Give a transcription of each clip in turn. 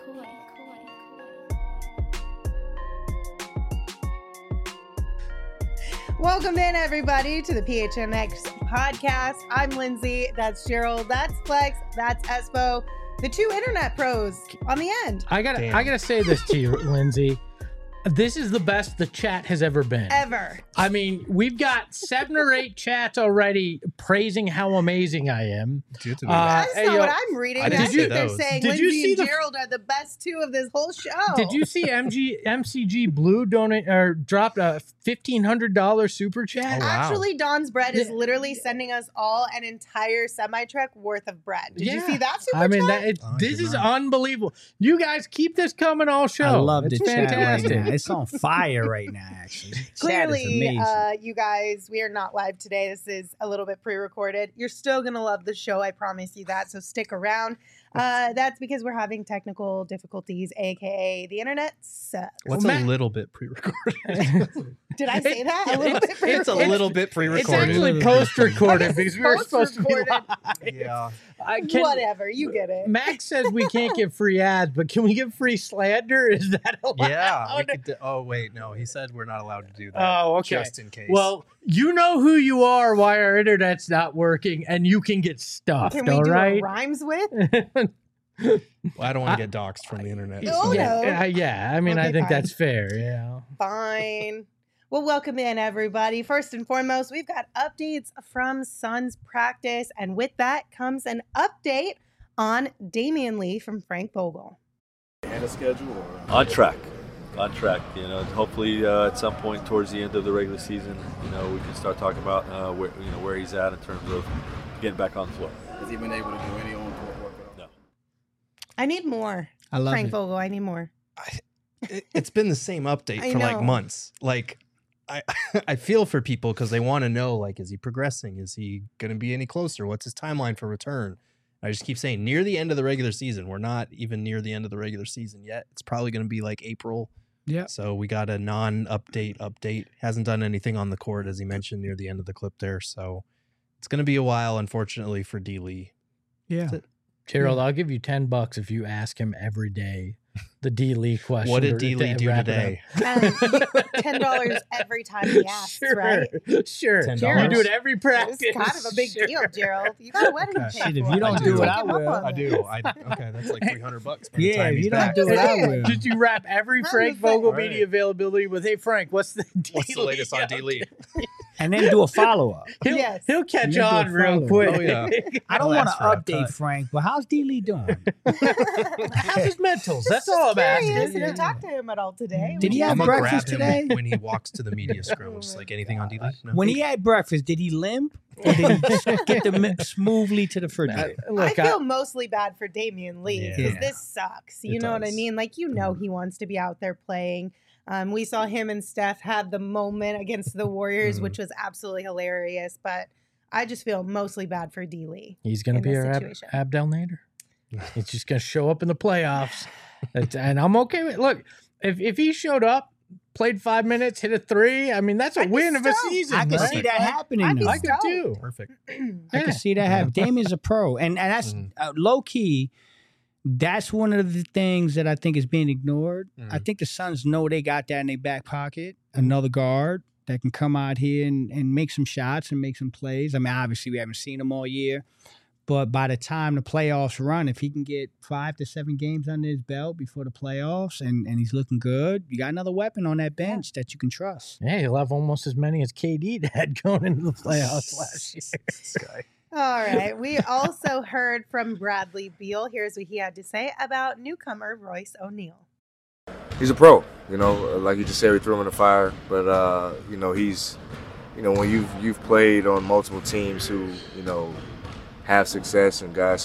Welcome in, everybody, to the PHNX podcast. I'm Lindsay. That's Gerald. That's Flex. That's Espo. The two internet pros on the end. I gotta say this to you, Lindsay. This is the best the chat has ever been. Ever. I mean, we've got 7 or 8 chats already praising how amazing I am. That's not what I'm reading. I think they're saying Lindsay and Gerald are the best two of this whole show. Did you see MCG Blue dropped a $1,500 super chat? Oh, wow. Actually, Don's Bread is literally sending us all an entire semi-truck worth of bread. Did you see that super chat? This is unbelievable. You guys keep this coming all show. I love it's the fantastic. chat right now. It's on fire right now, actually. Clearly, you guys, we are not live today. This is a little bit pre-recorded. You're still going to love the show. I promise you that. So stick around. That's because we're having technical difficulties, a.k.a. the internet sucks. What's a little bit pre-recorded? Did I say that? A little bit pre-recorded? It's a little bit pre-recorded. It's actually post-recorded because we were supposed to be live. Yeah. Whatever, you get it. Max says we can't give free ads, but can we give free slander? Is that allowed? Yeah. Oh, wait, no. He said we're not allowed to do that. Oh, okay. Just in case. Well, you know who you are, why our internet's not working, and you can get stuffed, Can we all do right? a rhymes with? Well, I don't want to get doxxed from the internet. Oh, no. Yeah. I mean, Okay, I think fine. that's fair. Yeah. Fine. Well, welcome in, everybody. First and foremost, we've got updates from Suns practice, and with that comes an update on Damian Lee from Frank Vogel. And a schedule? Or? On track. You know, hopefully at some point towards the end of the regular season, you know, we can start talking about where he's at in terms of getting back on the floor. Has he been able to do any on-court work at all? No. I need more. I love Frank it. Vogel, I need more. It's been the same update I for like know. months. Like, I feel for people because they want to know, like, is he progressing? Is he going to be any closer? What's his timeline for return? I just keep saying near the end of the regular season. We're not even near the end of the regular season yet. It's probably going to be like April. Yeah. So we got a non-update. Hasn't done anything on the court, as he mentioned near the end of the clip there. So it's going to be a while, unfortunately, for D. Lee. Yeah. Gerald, I'll give you $10 if you ask him every day the D. Lee question. What did D. Lee do wrap it today? $10 every time he asks, Sure, right? sure. $10. You do it every practice. It's kind of a big deal, Gerald. You got a wedding to pay Shit, if for. you don't do it, I Take him up will. on I it. do. Okay, that's like $300 by the Yeah, time if he's you don't back. do it, I will. Did you wrap every I'm Frank just saying. Vogel All right. media availability with, hey, Frank, what's the D. What's the latest on D. Lee? And then do a follow-up. Yes. He'll catch You do a on real follow-up. quick. Oh, yeah. I don't I'll want ask to for a update cut. Frank, but how's D. Lee doing? How's his mentals? That's Just all I'm curious asking. if you talked to him at all today. Did he We have I'm just- gonna breakfast grab him today? when he walks to the media scrums. Like anything on D. Lee? No. When he had breakfast, did he limp? Or did he just get smoothly to the refrigerator? I feel mostly bad for Damian Lee because Yeah. this sucks. You It know what I does. mean? Like, you know, he wants to be out there playing. We saw him and Steph have the moment against the Warriors, Mhm. which was absolutely hilarious. But I just feel mostly bad for D. Lee. He's going to in be this our situation. Abdel Nader. He's just going to show up in the playoffs. And I'm okay with it. Look, if he showed up, played 5 minutes, hit a 3, I mean, that's a I'd be win of a stoked. season. I can right? see that happening. I'd be though. I could too. Perfect. I can see that happen. Damian's a pro, and that's Mhm. low key. That's one of the things that I think is being ignored. I Mhm. think the Suns know they got that in their back pocket. Another guard that can come out here and make some shots and make some plays. I mean, obviously we haven't seen him all year, but by the time the playoffs run, if he can get 5 to 7 games under his belt before the playoffs and he's looking good, you got another weapon on that bench that you can trust. Yeah, he'll have almost as many as KD had going into the playoffs last year. This guy. All right. We also heard from Bradley Beal. Here's what he had to say about newcomer Royce O'Neal. He's a pro, you know, like you just said, we threw him in the fire, but you know, he's, you know, when you've played on multiple teams who, you know, have success and guys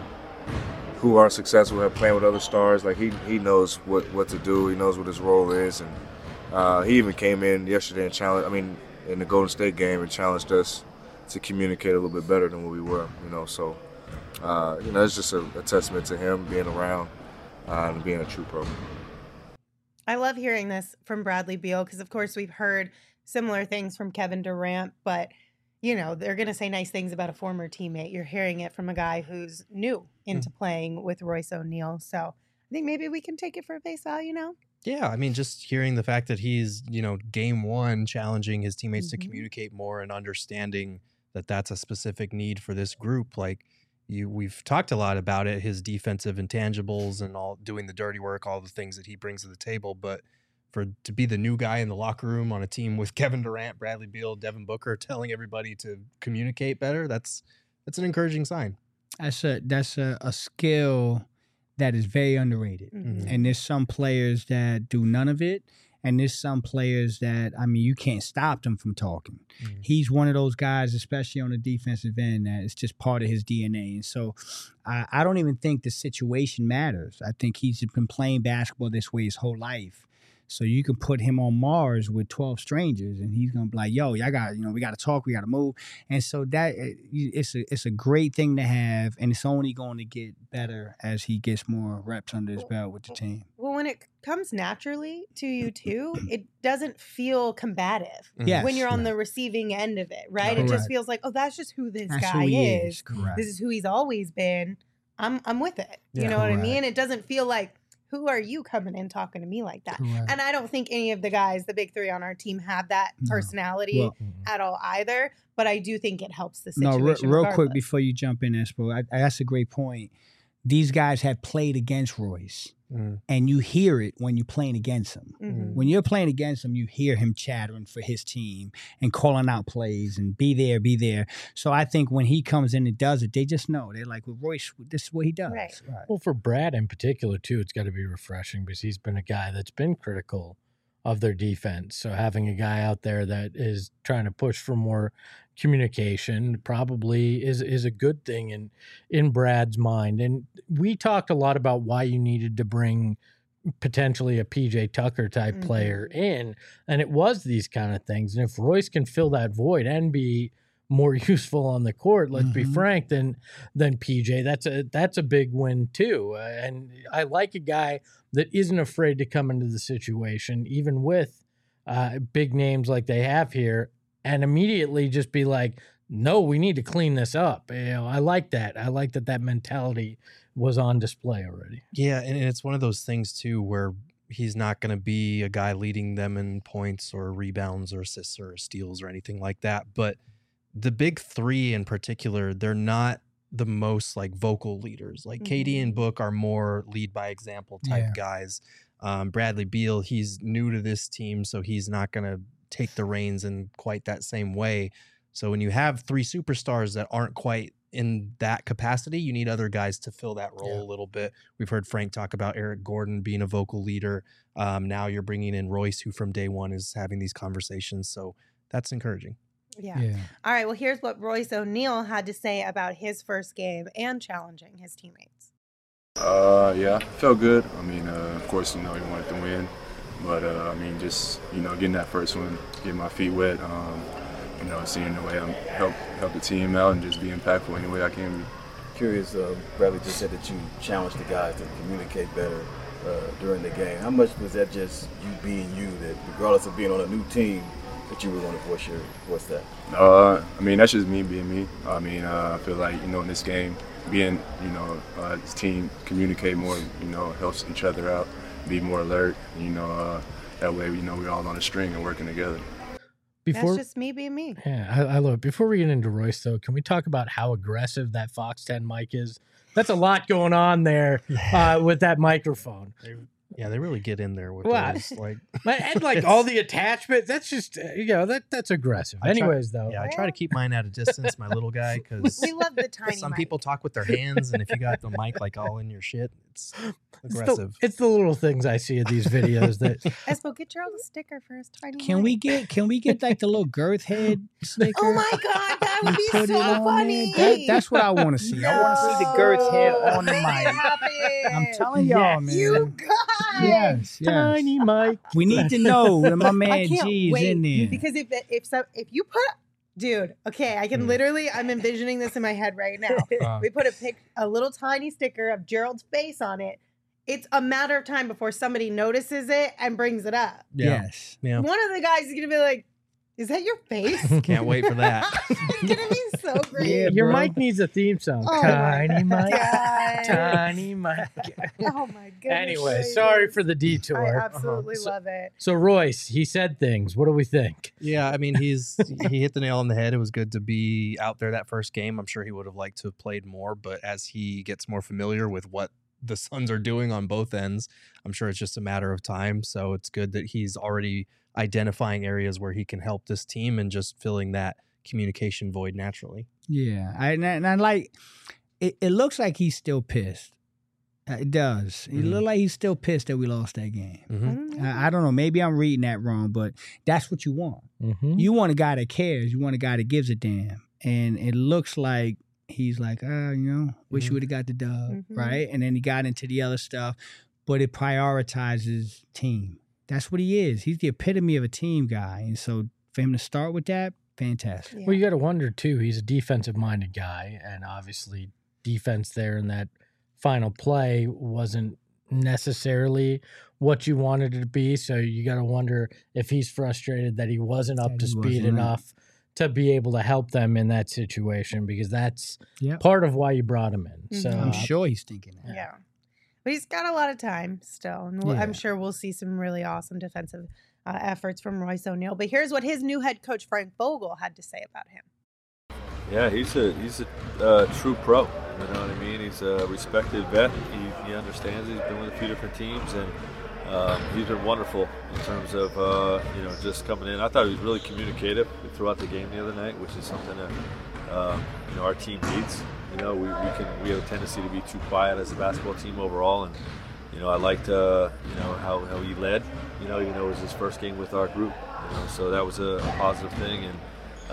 who are successful have playing with other stars, like he knows what to do, he knows what his role is, and he even came in yesterday and in the Golden State game and challenged us to communicate a little bit better than what we were, you know, so you know, it's just a testament to him being around and being a true pro. I love hearing this from Bradley Beal because, of course, we've heard similar things from Kevin Durant, but, you know, they're going to say nice things about a former teammate. You're hearing it from a guy who's new into playing with Royce O'Neal. So I think maybe we can take it for face value now. Yeah, I mean, just hearing the fact that he's, game one challenging his teammates to Mhm. communicate more and understanding that that's a specific need for this group. Like we've talked a lot about it, his defensive intangibles and all doing the dirty work, all the things that he brings to the table. But to be the new guy in the locker room on a team with Kevin Durant, Bradley Beal, Devin Booker, telling everybody to communicate better, that's an encouraging sign. That's a skill that is very underrated. Mhm. And there's some players that do none of it. And there's some players that, you can't stop them from talking. Mhm. He's one of those guys, especially on the defensive end, that it's just part of his DNA. And so I don't even think the situation matters. I think he's been playing basketball this way his whole life. So you can put him on Mars with 12 strangers and he's going to be like, yo, y'all got, we got to talk, we got to move. And so that it's a great thing to have. And it's only going to get better as he gets more reps under his belt with the team. Well, when it comes naturally to you too, it doesn't feel combative Yes. when you're on the receiving end of it, right? It just Correct. feels like, oh, that's just who this That's guy who he is. Correct. This is who he's always been. I'm with it. You Yeah. know what I Correct. mean? It doesn't feel like, who are you coming in talking to me like that? Correct. And I don't think any of the guys, the big three on our team, have that No. personality Well, at all either. But I do think it helps the No, situation. real quick regardless. before you jump in, Espo, that's a great point. These guys have played against Royce, Mm. and you hear it when you're playing against him. Mhm. When you're playing against him, you hear him chattering for his team and calling out plays and be there, be there. So I think when he comes in and does it, they just know. They're like, well, Royce, this is what he does. Right. Well, for Brad in particular, too, it's got to be refreshing because he's been a guy that's been critical of their defense. So having a guy out there that is trying to push for more communication probably is a good thing in Brad's mind. And we talked a lot about why you needed to bring potentially a PJ Tucker type player in, and it was these kind of things. And if Royce can fill that void and be more useful on the court, let's be frank, than PJ, that's a big win too. And I like a guy that isn't afraid to come into the situation, even with big names like they have here, and immediately just be like, no, we need to clean this up. I like that. I like that mentality was on display already. Yeah, and it's one of those things too where he's not going to be a guy leading them in points or rebounds or assists or steals or anything like that. But the big three in particular, they're not the most like vocal leaders. Like KD and Book are more lead by example type guys. Bradley Beal, he's new to this team, so he's not going to take the reins in quite that same way. So when you have three superstars that aren't quite in that capacity, you need other guys to fill that role a little bit. We've heard Frank talk about Eric Gordon being a vocal leader. Now you're bringing in Royce, who from day one is having these conversations. So that's encouraging. Yeah. All right. Well, here's what Royce O'Neal had to say about his first game and challenging his teammates. Yeah, felt good. I mean, of course, he wanted to win. But, just, getting that first one, getting my feet wet, seeing the way I help the team out and just be impactful any way I can be. Curious, Bradley just said that you challenged the guys to communicate better during the game. How much was that just you being you, that regardless of being on a new team, that you were going to voice that? That's just me being me. I feel like, in this game, being, this team communicate more, helps each other out, be more alert, that way, we're all on a string and working together. That's just me being me. Yeah, I love it. Before we get into Royce, though, can we talk about how aggressive that Fox 10 mic is? That's a lot going on there with that microphone. They really get in there with What? those. And all the attachments. That's just, that's aggressive. Anyways, though. Yeah, I try to keep mine at a distance, my little guy, because We love the tiny some mic. people talk with their hands, and if you got the mic all in your shit, it's aggressive. It's the little things I see in these videos that Espo, get Gerald a sticker for his tiny Can we get like the little girth head sticker? Oh my God, that would be Put so it on funny. there? That's what I want to see. I want to see the girth head on the Make it mic. happen. I'm telling y'all, man. You guys. Yes. tiny mic. We need to know that my I man can't G is wait in there. because if you put, dude, okay, I can literally, I'm envisioning this in my head right now. We put a little tiny sticker of Gerald's face on it. It's a matter of time before somebody notices it and brings it up. Yes. Yeah. One of the guys is gonna be like, "Is that your face?" Can't wait for that. It's gonna be so great. Yeah, Your bro. mic needs a theme song. Oh Tiny my mic. God. Tiny mic. Oh my goodness. Anyway, gracious. sorry for the detour. I absolutely love it. So Royce, he said things. What do we think? Yeah, I mean, he hit the nail on the head. It was good to be out there that first game. I'm sure he would have liked to have played more, but as he gets more familiar with what the Suns are doing on both ends, I'm sure it's just a matter of time. So it's good that he's already identifying areas where he can help this team and just filling that communication void naturally. Yeah, and I like it. It looks like he's still pissed. It does. It looks like he's still pissed that we lost that game. Mm-hmm. I don't know. Maybe I'm reading that wrong, but that's what you want. Mm-hmm. You want a guy that cares. You want a guy that gives a damn. And it looks like he's like, wish you would have got the dub, right? And then he got into the other stuff, but it prioritizes team. That's what he is. He's the epitome of a team guy. And so for him to start with that, fantastic. Yeah. Well, you got to wonder, too, he's a defensive-minded guy, and obviously defense there in that final play wasn't necessarily what you wanted it to be, so you got to wonder if he's frustrated that he wasn't up to speed enough to be able to help them in that situation, because that's part of why you brought him in. So I'm sure he's thinking that. Yeah. But he's got a lot of time still, and I'm sure we'll see some really awesome defensive efforts from Royce O'Neal. But here's what his new head coach, Frank Vogel, had to say about him. Yeah, he's a true pro. You know what I mean? He's a respected vet. He understands it. He's been with a few different teams, and he's been wonderful in terms of just coming in. I thought he was really communicative throughout the game the other night, which is something that our team needs. We have a tendency to be too quiet as a basketball team overall, and I liked how he led. It was his first game with our group. So that was a positive thing, and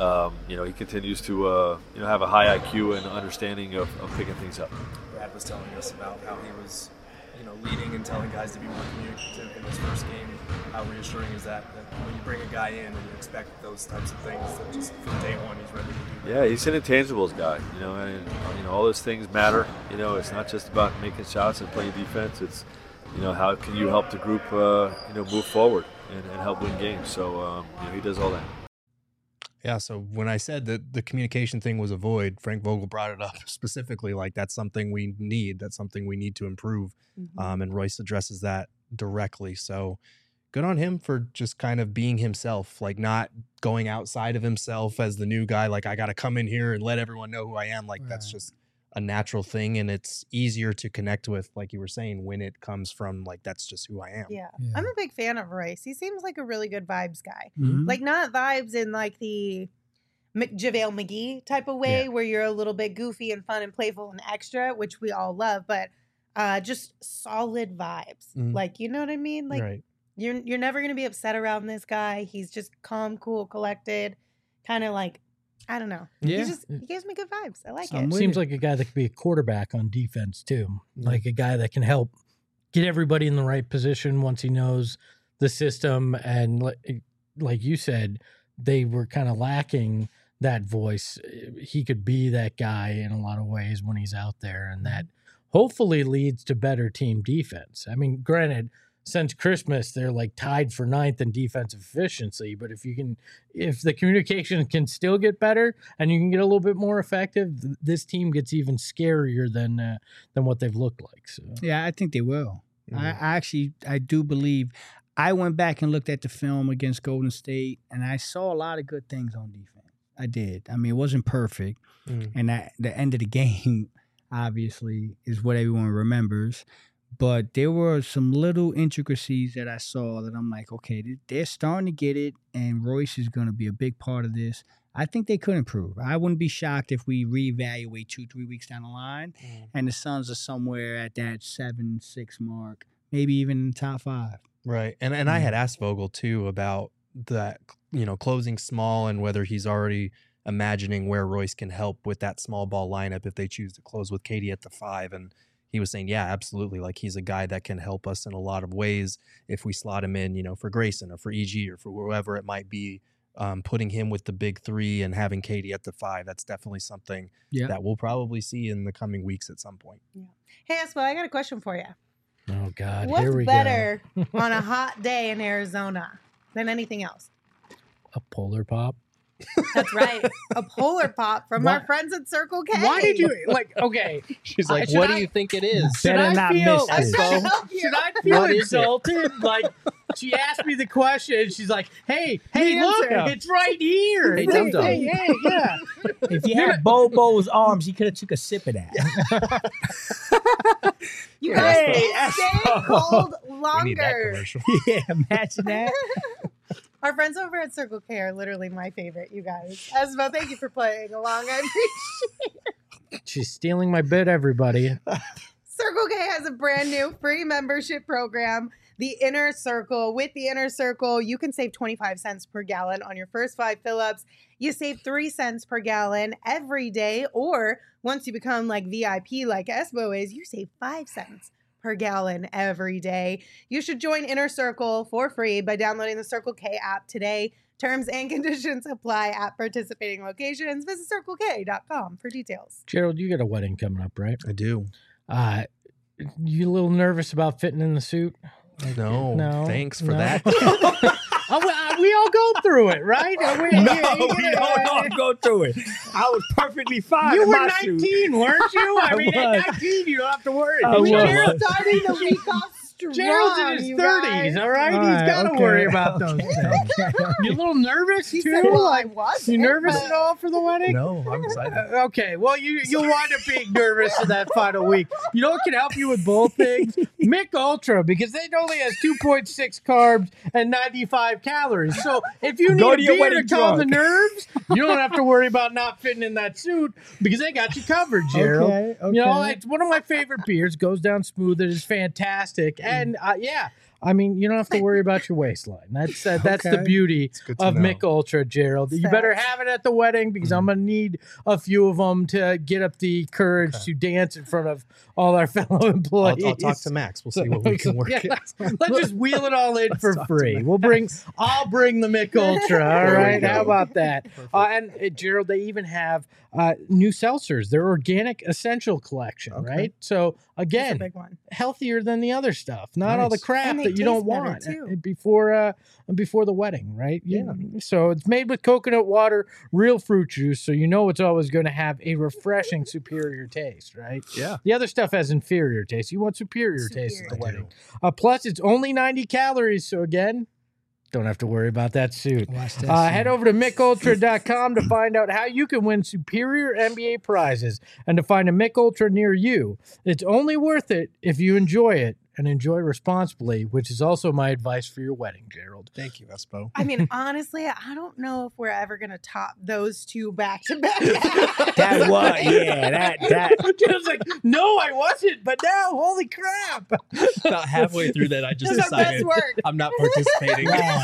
he continues to have a high IQ and understanding of picking things up. Brad was telling us about how he was leading and telling guys to be more communicative in his first game. How reassuring is that when you bring a guy in and you expect those types of things, that just from day one he's ready to do that? Yeah, he's an intangibles guy, and all those things matter. It's not just about making shots and playing defense. It's how can you help the group move forward and help win games. So he does all that. Yeah, so when I said that the communication thing was a void, Frank Vogel brought it up specifically, like that's something we need. That's something we need to improve. And Royce addresses that directly. So good on him for just kind of being himself, like not going outside of himself as the new guy. Like, I got to come in here and let everyone know who I am. Like, that's just a natural thing. And it's easier to connect with, like you were saying, when it comes from like, that's just who I am. Yeah. I'm a big fan of Royce. He seems like a really good vibes guy. Mm-hmm. Like, not vibes in like the JaVale McGee type of way where you're a little bit goofy and fun and playful and extra, which we all love, but just solid vibes. Like, you know what I mean? Like, you're never going to be upset around this guy. He's just calm, cool, collected, kind of like, I don't know. Yeah. He gives me good vibes. I like I'm it. with seems it. like a guy that could be a quarterback on defense too, like a guy that can help get everybody in the right position once he knows the system. And like you said, they were kind of lacking that voice. He could be that guy in a lot of ways when he's out there, and that hopefully leads to better team defense. I mean, granted, since Christmas, they're like tied for 9th in defensive efficiency. But if the communication can still get better and you can get a little bit more effective, this team gets even scarier than what they've looked like. So Yeah, I think they will. I do believe. I went back and looked at the film against Golden State, and I saw a lot of good things on defense. I did. I mean, it wasn't perfect, and at the end of the game, obviously, is what everyone remembers. But there were some little intricacies that I saw that I'm like, okay, they're starting to get it, and Royce is going to be a big part of this. I think they could improve. I wouldn't be shocked if we reevaluate 2-3 weeks down the line, and the Suns are somewhere at that 7-6 mark, maybe even in the top 5. Right. And I had asked Vogel too about that, closing small and whether he's already imagining where Royce can help with that small ball lineup if they choose to close with KD at the 5. And he was saying, yeah, absolutely. Like, he's a guy that can help us in a lot of ways if we slot him in, for Grayson or for EG or for whoever it might be. Putting him with the big 3 and having KD at the 5, that's definitely something that we'll probably see in the coming weeks at some point. Yeah. Hey, Espo, I got a question for you. oh God, What's here we better go. on a hot day in Arizona than anything else? A polar pop. That's right. A Polar Pop from our friends at Circle K. Why did you okay? She's like, should what do I- you think it is? Should Better I not feel, miss this. should I feel What is it? insulted? Like she asked me the question. She's like, "Hey, The look, answer. it's right here." Hey, It's like, Dum-Dum. hey, yeah. If you had Bobo's arms, he could have took a sip of that. You Hey, guys that's- stay cold We need that longer. commercial. Yeah, imagine that. Our friends over at Circle K are literally my favorite, you guys. Esmo, thank you for playing along. I appreciate it. She's stealing my bit, everybody. Circle K has a brand new free membership program, the Inner Circle. With the Inner Circle, you can save 25 cents per gallon on your first 5 fill-ups. You save 3 cents per gallon every day, or once you become like VIP like Esmo is, you save 5 cents per gallon every day. You should join Inner Circle for free by downloading the Circle K app today. Terms and conditions apply at participating locations. Visit CircleK.com for details. Gerald, you got a wedding coming up, right? I do. You a little nervous about fitting in the suit? No, thanks for no. that. We all go through it, right? We don't go through it. I was perfectly fine. You in were my 19, suit. weren't you? I I mean, at was. 19, you don't have to worry. I was. We're starting the week off strong. Gerald's in his you 30s, guys. all right? All He's right, got to okay, worry about those okay, things. okay. You a little nervous, He too? said, well, I Like, was. you nervous at all for the wedding? No, I'm excited. Okay, well, you'll wind up being nervous in that final week. You know what can help you with both things? Mick Ultra, because it only has 2.6 carbs and 95 calories. So if you Go need to a your beer to wedding calm the drunk. nerves, you don't have to worry about not fitting in that suit because they got you covered, Gerald. Okay, You know, okay. it's one of my favorite beers. Goes down smooth. It is fantastic. And yeah, I mean, you don't have to worry about your waistline. That's the Okay. beauty good to of know. Mick Ultra, Gerald. You better have it at the wedding because I'm gonna need a few of them to get up the courage to dance in front of all our fellow employees. I'll talk to Max. We'll see what we can work. Yeah, out. let's just wheel it all in for talk to free. I'll bring the Mick Ultra. All There we right, go. how about that? Gerald, they even have new seltzers. Their organic essential collection, Okay. right? So That's a again, big one. healthier than the other stuff. Not all the Nice. crap And they that you don't taste better, want too. before the wedding, right? So it's made with coconut water, real fruit juice, so you know it's always going to have a refreshing, superior taste, right? Yeah. The other stuff has inferior taste. You want superior taste at the Superior. wedding. Plus, it's only 90 calories, so again, don't have to worry about that suit. Watch that Head over to MickUltra.com to find out how you can win superior NBA prizes and to find a Mick Ultra near you. It's only worth it if you enjoy it and enjoy responsibly, which is also my advice for your wedding, Gerald. Thank you, Espo. I mean, honestly, I don't know if we're ever going to top those two back to back. That was, yeah, that. Gerald's like, no, I wasn't, but now, holy crap. About halfway through that, I just That's our best decided work. I'm not participating.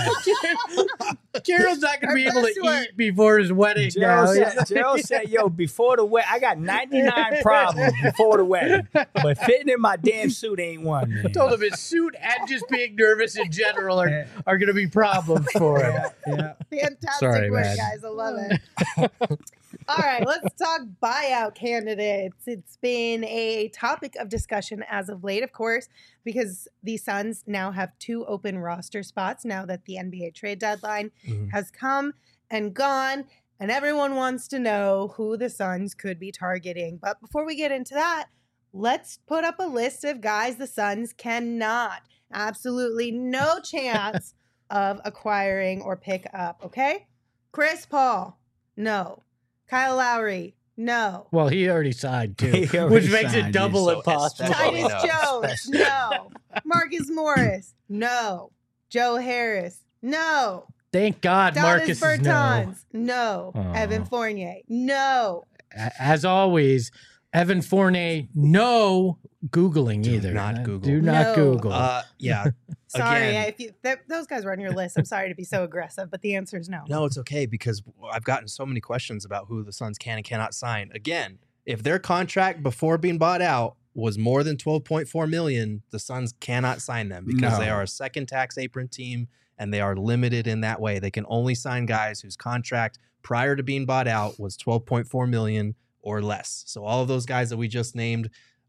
Gerald's not going to Our be able best to work. eat before his wedding now. Gerald said, yo, before the wedding, I got 99 problems before the wedding, but fitting in my damn suit ain't one. Man. I told him his suit and just being nervous in general are going to be problems for him. Yeah. Fantastic Sorry, work, man. guys. I love it. All right, let's talk buyout candidates. It's been a topic of discussion as of late, of course, because the Suns now have 2 open roster spots now that the NBA trade deadline Mhm. has come and gone, and everyone wants to know who the Suns could be targeting. But before we get into that, let's put up a list of guys the Suns cannot, absolutely no chance of acquiring or pick up, okay? Chris Paul, no. Kyle Lowry, no. Well, he already signed too, He already which makes it signed, double yeah, so impossible. especially- Titus no, Jones, no. Marcus Morris, no. Joe Harris, no. Thank God Marcus Donis is no. Bertans, no. Aw. Evan Fournier, no. As always, Evan Fournier, no Googling Do either. not Google. Do not No. Google. Yeah. Sorry, Again. if you those guys were on your list. I'm sorry to be so aggressive, but the answer is no. No, it's okay because I've gotten so many questions about who the Suns can and cannot sign. Again, if their contract before being bought out was more than $12.4 million, the Suns cannot sign them because No. they are a second tax apron team and they are limited in that way. They can only sign guys whose contract prior to being bought out was $12.4 million or less. So all of those guys that we just named,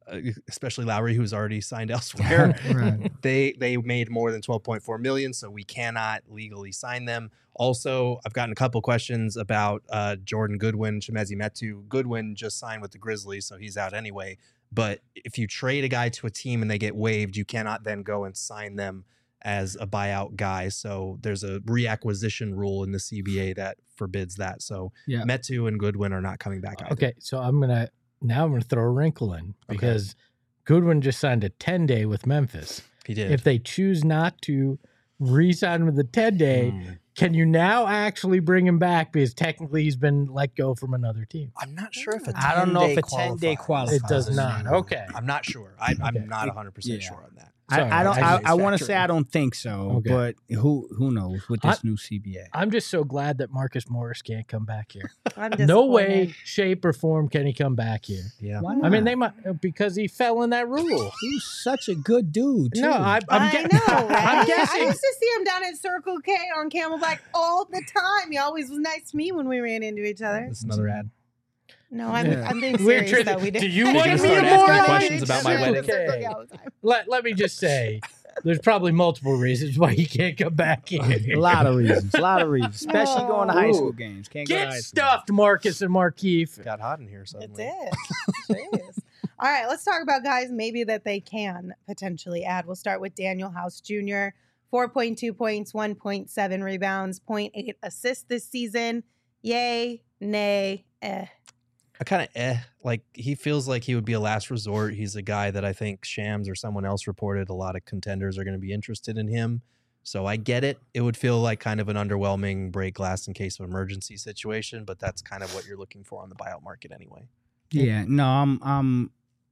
especially Lowry, who's already signed elsewhere. Right. They made more than 12.4 million, so we cannot legally sign them. Also, I've gotten a couple questions about Jordan Goodwin, Chimezie Metu. Goodwin just signed with the Grizzlies, so he's out anyway. But if you trade a guy to a team and they get waived, you cannot then go and sign them as a buyout guy. So there's a reacquisition rule in the CBA that forbids that. So Yeah. Metu and Goodwin are not coming back either. Okay, so I'm gonna throw a wrinkle in because Goodwin just signed a 10-day with Memphis. He did. If they choose not to re-sign with the 10-day, can you now actually bring him back because technically he's been let go from another team? I'm not sure if a 10-day I don't know if a 10-day qualifies. It does not. Okay. I'm not sure. I'm not 100% sure on that. Sorry, I want to say I don't think so, Okay. but who knows with this new CBA? I'm just so glad that Marcus Morris can't come back here. I'm No way, disappointed. shape, or form can he come back here. Yeah. Why I mean, not? they might because he fell in that rule. He was such a good dude. Too. No, I'm I guessing. know, right? I'm I guessing. used to see him down at Circle K on Camelback all the time. He always was nice to me when we ran into each other. That's another ad. No, I'm Yeah. being We're serious trying though. to- We did. do you I want didn't me mean to to ask start you questions it. about my Sure, wedding? Circle Okay. K all the time. Let me just say, there's probably multiple reasons why he can't come back here. A lot of reasons, especially going to high school games. Can't go to Get high school. stuffed, Marcus and Markeith. Got hot in here It's suddenly. it. Jeez. All right, let's talk about guys maybe that they can potentially add. We'll start with Daniel House Jr. 4.2 points, 1.7 rebounds, 0.8 assists this season. Yay, nay, I kind of like he feels like he would be a last resort. He's a guy that I think Shams or someone else reported a lot of contenders are going to be interested in him. So I get it. It would feel like kind of an underwhelming break glass in case of emergency situation, but that's kind of what you're looking for on the buyout market anyway. Yeah, no, I'm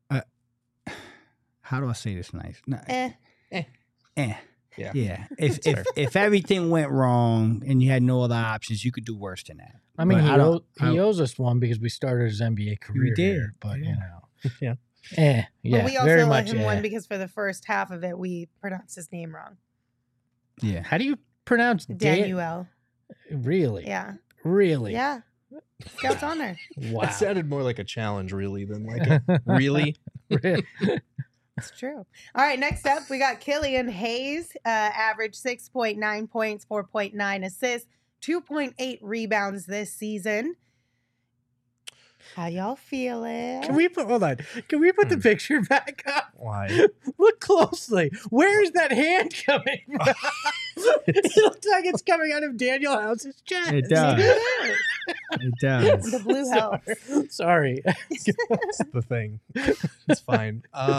how do I say this nice? No, Yeah. Yeah. If everything went wrong and you had no other options, you could do worse than that. I mean, But he owes us one because we started his NBA career. did, here, but yeah. you know, Yeah. yeah, But we also very let much. him one because for the first half of it, we pronounced his name wrong. Yeah. How do you pronounce Daniel. Really? Yeah. Really? Yeah. Scout's honor. Wow. That sounded more like a challenge, really, than like a really. It's true. All right, next up, we got Killian Hayes, average 6.9 points, 4.9 assists, 2.8 rebounds this season. How y'all feeling? Can we put the picture back up? Why? Look closely. Where is that hand coming from? It looks like it's coming out of Daniel House's chest. It does. It does. The blue helps. Sorry. That's the thing. It's fine.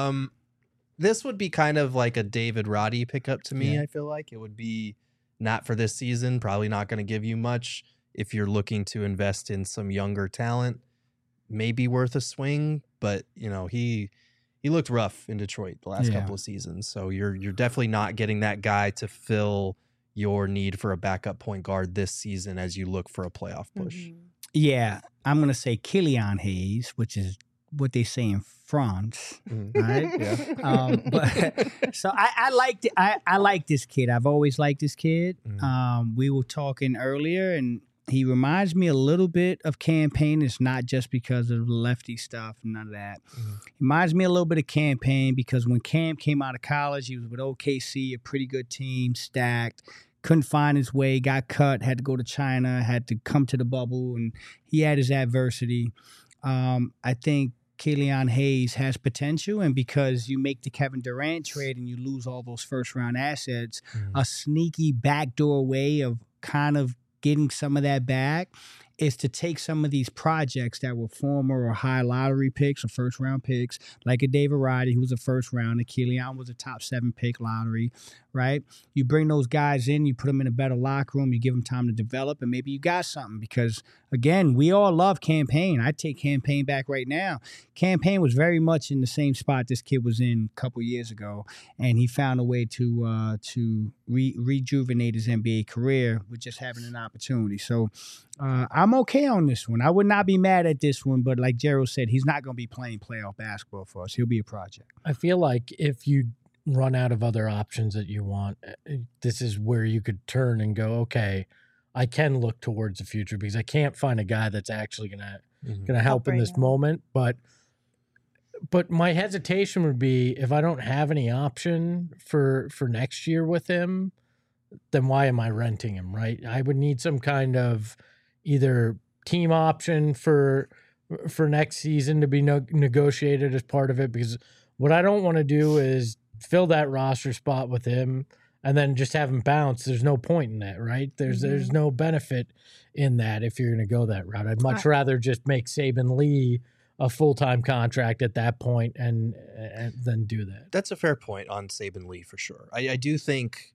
This would be kind of like a David Roddy pickup to me. Yeah. I feel like it would be not for this season, probably not going to give you much. If you're looking to invest in some younger talent, maybe worth a swing. But you know, he looked rough in Detroit the last couple of seasons, so you're definitely not getting that guy to fill your need for a backup point guard this season as you look for a playoff push. Mhm. Yeah. I'm gonna say Killian Hayes, which is what they say in France. Right? Yeah. But so I liked I like this kid. I've always liked this kid. Mhm. We were talking earlier, and he reminds me a little bit of Campaign. It's not just because of the lefty stuff, none of that. Mhm. He reminds me a little bit of Campaign because when Cam came out of college, he was with OKC, a pretty good team, stacked. Couldn't find his way, got cut, had to go to China, had to come to the bubble, and he had his adversity. I think Killian Hayes has potential, and because you make the Kevin Durant trade and you lose all those first-round assets, a sneaky backdoor way of kind of getting some of that back is to take some of these projects that were former or high lottery picks or first-round picks, like a David Roddy, who was a first-rounder. Killian was a top 7 pick lottery, right? You bring those guys in, you put them in a better locker room, you give them time to develop, and maybe you got something because, again, we all love Campaign. I take Campaign back right now. Campaign was very much in the same spot this kid was in a couple years ago, and he found a way to rejuvenate his NBA career with just having an opportunity. So I'm okay on this one. I would not be mad at this one, but like Gerald said, he's not going to be playing playoff basketball for us. He'll be a project. I feel like if you run out of other options that you want, this is where you could turn and go, okay, I can look towards the future because I can't find a guy that's actually gonna help in right this now. moment. But But my hesitation would be if I don't have any option for next year with him, then why am I renting him, right? I would need some kind of either team option for next season to be negotiated as part of it, because what I don't want to do is fill that roster spot with him and then just have him bounce. There's no point in that, right? There's no benefit in that if you're going to go that route. I'd much rather just make Saban Lee a full-time contract at that point and then do that. That's a fair point on Saban Lee for sure. I do think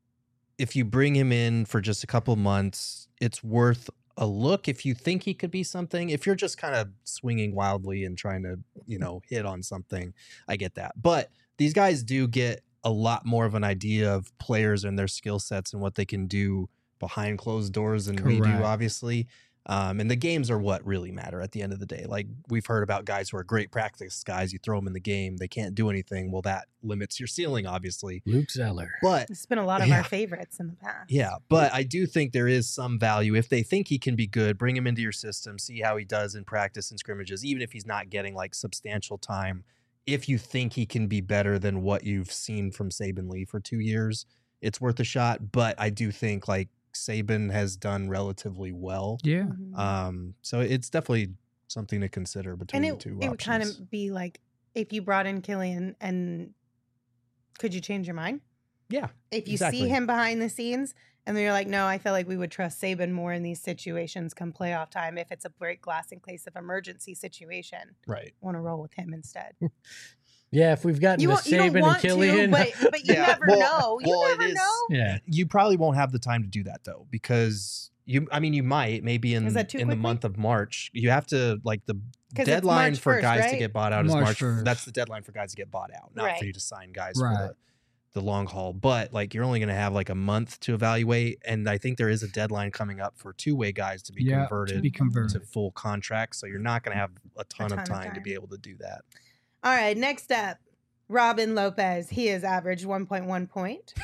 if you bring him in for just a couple months, it's worth a look if you think he could be something. If you're just kind of swinging wildly and trying to, hit on something, I get that. But these guys do get a lot more of an idea of players and their skill sets and what they can do behind closed doors than we do, obviously. And the games are what really matter at the end of the day. Like we've heard about guys who are great practice guys. You throw them in the game, they can't do anything. Well, that limits your ceiling, obviously. Luke Zeller. But it's been a lot of our favorites in the past. Yeah, but I do think there is some value. If they think he can be good, bring him into your system, see how he does in practice and scrimmages, even if he's not getting like substantial time. If you think he can be better than what you've seen from Saban Lee for 2 years, it's worth a shot. But I do think like Saban has done relatively well. Yeah. So it's definitely something to consider between the two options. It would kind of be like if you brought in Killian, and could you change your mind? Yeah. If you see him behind the scenes and then you're like, no, I feel like we would trust Saban more in these situations come playoff time if it's a break glass in case of emergency situation. Right. Want to roll with him instead. Yeah, if we've gotten to Saban and Killian. But you never know. You never know. Yeah. You probably won't have the time to do that, though, because you might, maybe in the month of March. You have to, like, the deadline for guys to get bought out is March 1st. That's the deadline for guys to get bought out, not for you to sign guys for the long haul. But, like, you're only going to have, like, a month to evaluate, and I think there is a deadline coming up for two-way guys to be converted to full contracts, so you're not going to have a ton of time to be able to do that. All right, next up, Robin Lopez. He has averaged 1.1 point,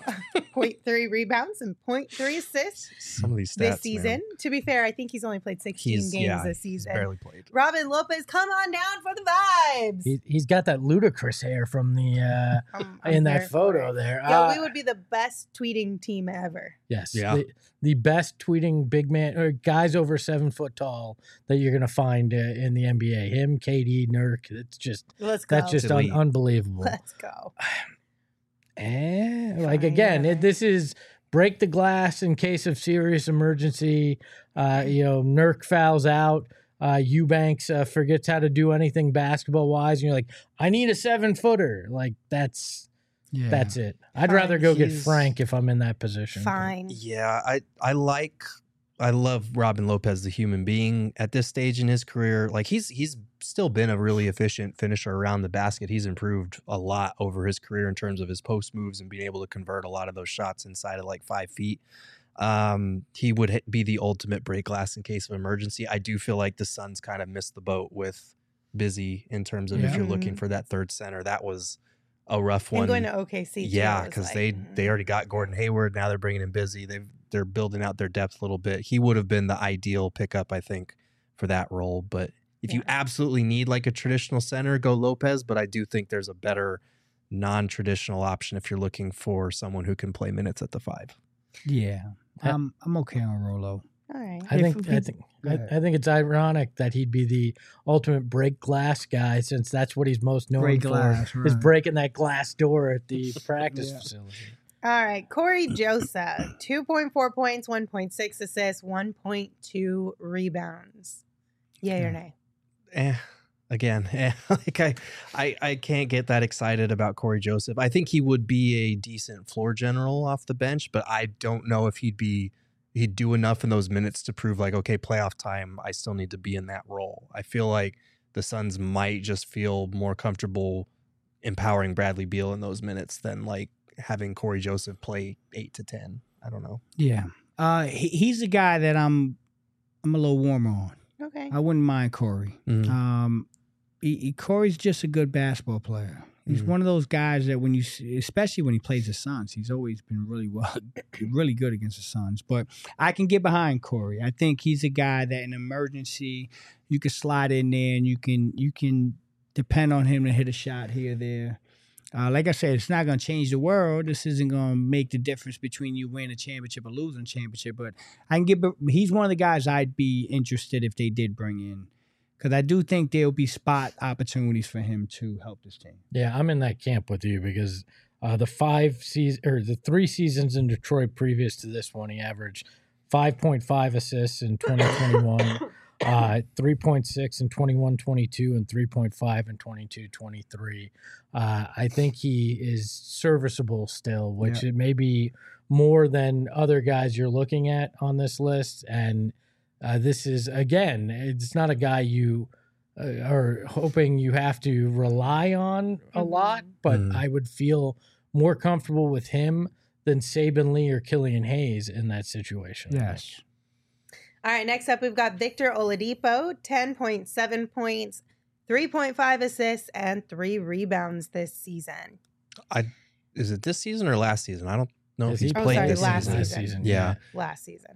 0.3 rebounds, and 0.3 assists Some of these stats, this season. Man. To be fair, I think he's only played 16 games this season. He's barely played. Robin Lopez, come on down for the vibes. He's got that ludicrous hair from the in that photo there. Yeah, we would be the best tweeting team ever. Yes. Yeah. The best tweeting big man or guys over 7 foot tall that you're going to find in the NBA. Him, KD, Nurk. It's just Let's go. That's just unbelievable. Let's go. This is break the glass in case of serious emergency. Nurk fouls out. Eubanks forgets how to do anything basketball wise, and you're like, I need a 7-footer. Like that's it. I'd rather go get Frank if I'm in that position. Fine. Yeah, I love Robin Lopez, the human being at this stage in his career. Like he's still been a really efficient finisher around the basket. He's improved a lot over his career in terms of his post moves and being able to convert a lot of those shots inside of like 5 feet. He would be the ultimate break glass in case of emergency. I do feel like the Suns kind of missed the boat with Busy in terms of if you're looking for that third center. That was a rough one. And going to OKC. Yeah, because they already got Gordon Hayward. Now they're bringing in Busy. They're building out their depth a little bit. He would have been the ideal pickup, I think, for that role. But if you absolutely need like a traditional center, go Lopez. But I do think there's a better non-traditional option if you're looking for someone who can play minutes at the 5. Yeah, I'm okay on Rolo. All right. I think it's ironic that he'd be the ultimate break glass guy, since that's what he's most known for, is breaking that glass door at the practice facility. All right, Corey Joseph, 2.4 points, 1.6 assists, 1.2 rebounds. Yay or nay? I can't get that excited about Corey Joseph. I think he would be a decent floor general off the bench, but I don't know if he'd do enough in those minutes to prove like, okay, playoff time, I still need to be in that role. I feel like the Suns might just feel more comfortable empowering Bradley Beal in those minutes than like having Corey Joseph play 8 to 10. I don't know. Yeah. He's a guy that I'm a little warmer on. Okay. I wouldn't mind Corey. Mm-hmm. Corey's just a good basketball player. He's one of those guys that especially when he plays the Suns, he's always been really good against the Suns. But I can get behind Corey. I think he's a guy that in emergency, you can slide in there and you can depend on him to hit a shot here or there. Like I said, it's not going to change the world. This isn't going to make the difference between you winning a championship or losing a championship. But he's one of the guys I'd be interested if they did bring in, because I do think there'll be spot opportunities for him to help this team. Yeah, I'm in that camp with you because the 3 seasons in Detroit previous to this one, he averaged 5.5 assists in 2021. 3.6 in 21-22 and 3.5 in 22-23. I think he is serviceable still, which it may be more than other guys you're looking at on this list. And this is, again, it's not a guy you are hoping you have to rely on a lot, but I would feel more comfortable with him than Saban Lee or Killian Hayes in that situation. Yes. All right, next up, we've got Victor Oladipo, 10.7 points, 3.5 assists, and 3 rebounds this season. Is it this season or last season? I don't know if he's Oh, played sorry, this last season. season. Yeah. Last season.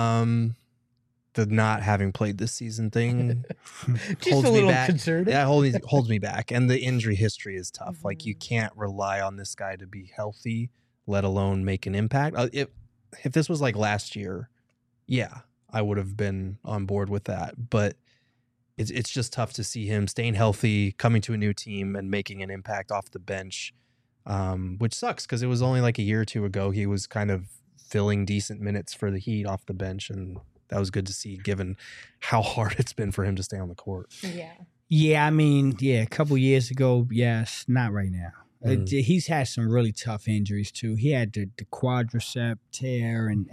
The not having played this season thing Just holds a me little back. concerning. Yeah, holds me back. And the injury history is tough. Like, you can't rely on this guy to be healthy, let alone make an impact. If this was like last year, yeah, I would have been on board with that. But it's just tough to see him staying healthy, coming to a new team, and making an impact off the bench, which sucks because it was only like a year or two ago he was kind of filling decent minutes for the Heat off the bench, and that was good to see given how hard it's been for him to stay on the court. Yeah. Yeah, I mean, a couple years ago, yes, not right now. He's had some really tough injuries too. He had the quadricep tear, and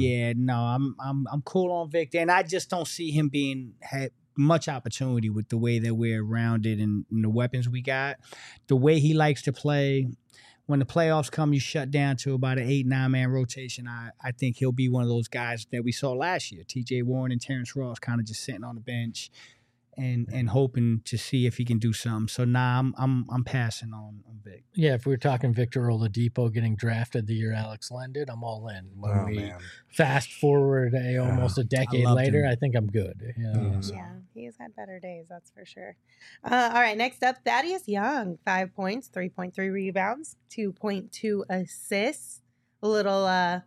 I'm cool on Victor, and I just don't see him had much opportunity with the way that we're around it and the weapons we got. The way he likes to play, when the playoffs come, you shut down to about an 8-9 man rotation. I think he'll be one of those guys that we saw last year. T.J. Warren and Terrence Ross kind of just sitting on the bench and hoping to see if he can do something. So I'm passing on Vic. Yeah, if we were talking Victor Oladipo getting drafted the year Alex Len did, I'm all in. When we fast forward almost a decade later, I think I'm good. Yeah, he's had better days, that's for sure. All right, next up, Thaddeus Young, 5 points, 3.3 rebounds, 2.2 assists. A little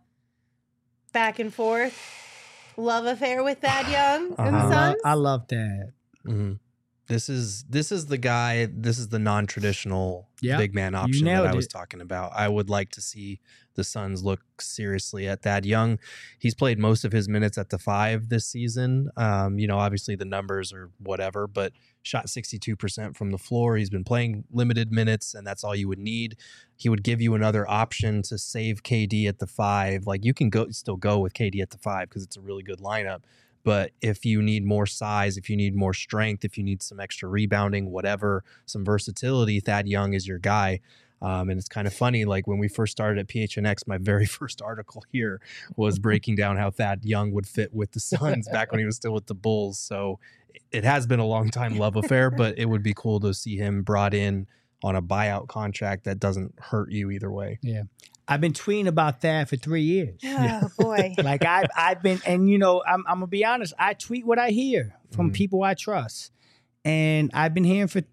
back and forth love affair with Thad Young and Sons. I love that. Mm-hmm. This is the guy. This is the non-traditional big man option that I was talking about. I would like to see the Suns look seriously at Thad Young. He's played most of his minutes at the 5 this season. Obviously the numbers are whatever, but shot 62% from the floor. He's been playing limited minutes, and that's all you would need. He would give you another option to save KD at the 5. Like, you can still go with KD at the 5 because it's a really good lineup. But if you need more size, if you need more strength, if you need some extra rebounding, whatever, some versatility, Thad Young is your guy. And it's kind of funny, like when we first started at PHNX, my very first article here was breaking down how Thad Young would fit with the Suns back when he was still with the Bulls. So it has been a long time love affair, but it would be cool to see him brought in on a buyout contract that doesn't hurt you either way. Yeah. I've been tweeting about that for 3 years. Oh, boy. Like I've been, and I'm going to be honest, I tweet what I hear from people I trust. And I've been hearing for,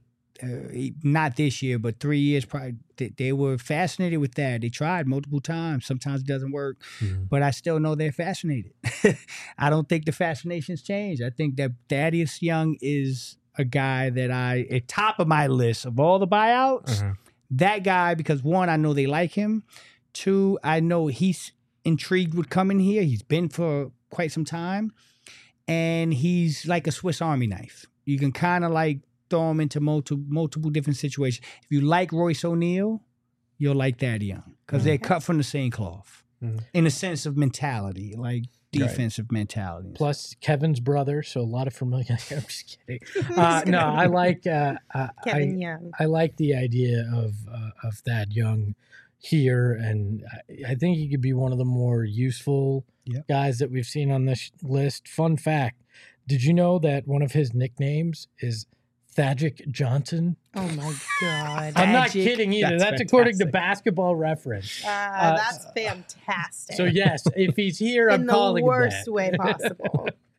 not this year, but 3 years probably, they were fascinated with that. They tried multiple times. Sometimes it doesn't work, but I still know they're fascinated. I don't think the fascinations change. I think that Thaddeus Young is a guy that at top of my list of all the buyouts, that guy, because one, I know they like him. 2, I know he's intrigued with coming here. He's been for quite some time. And he's like a Swiss Army knife. You can kind of like throw him into multiple different situations. If you like Royce O'Neal, you'll like Thad Young. Because they're cut from the same cloth. In a sense of mentality, like defensive mentality. Plus Kevin's brother, so a lot of familiarity. I'm just kidding. No, I like Kevin Young. I like the idea of Thad Young here, and I think he could be one of the more useful guys that we've seen on this list. Fun fact, did you know that one of his nicknames is Thagic Johnson? Oh my God. I'm not kidding either. That's according to Basketball Reference. That's fantastic. So yes, if he's here, I'm calling in the worst way possible.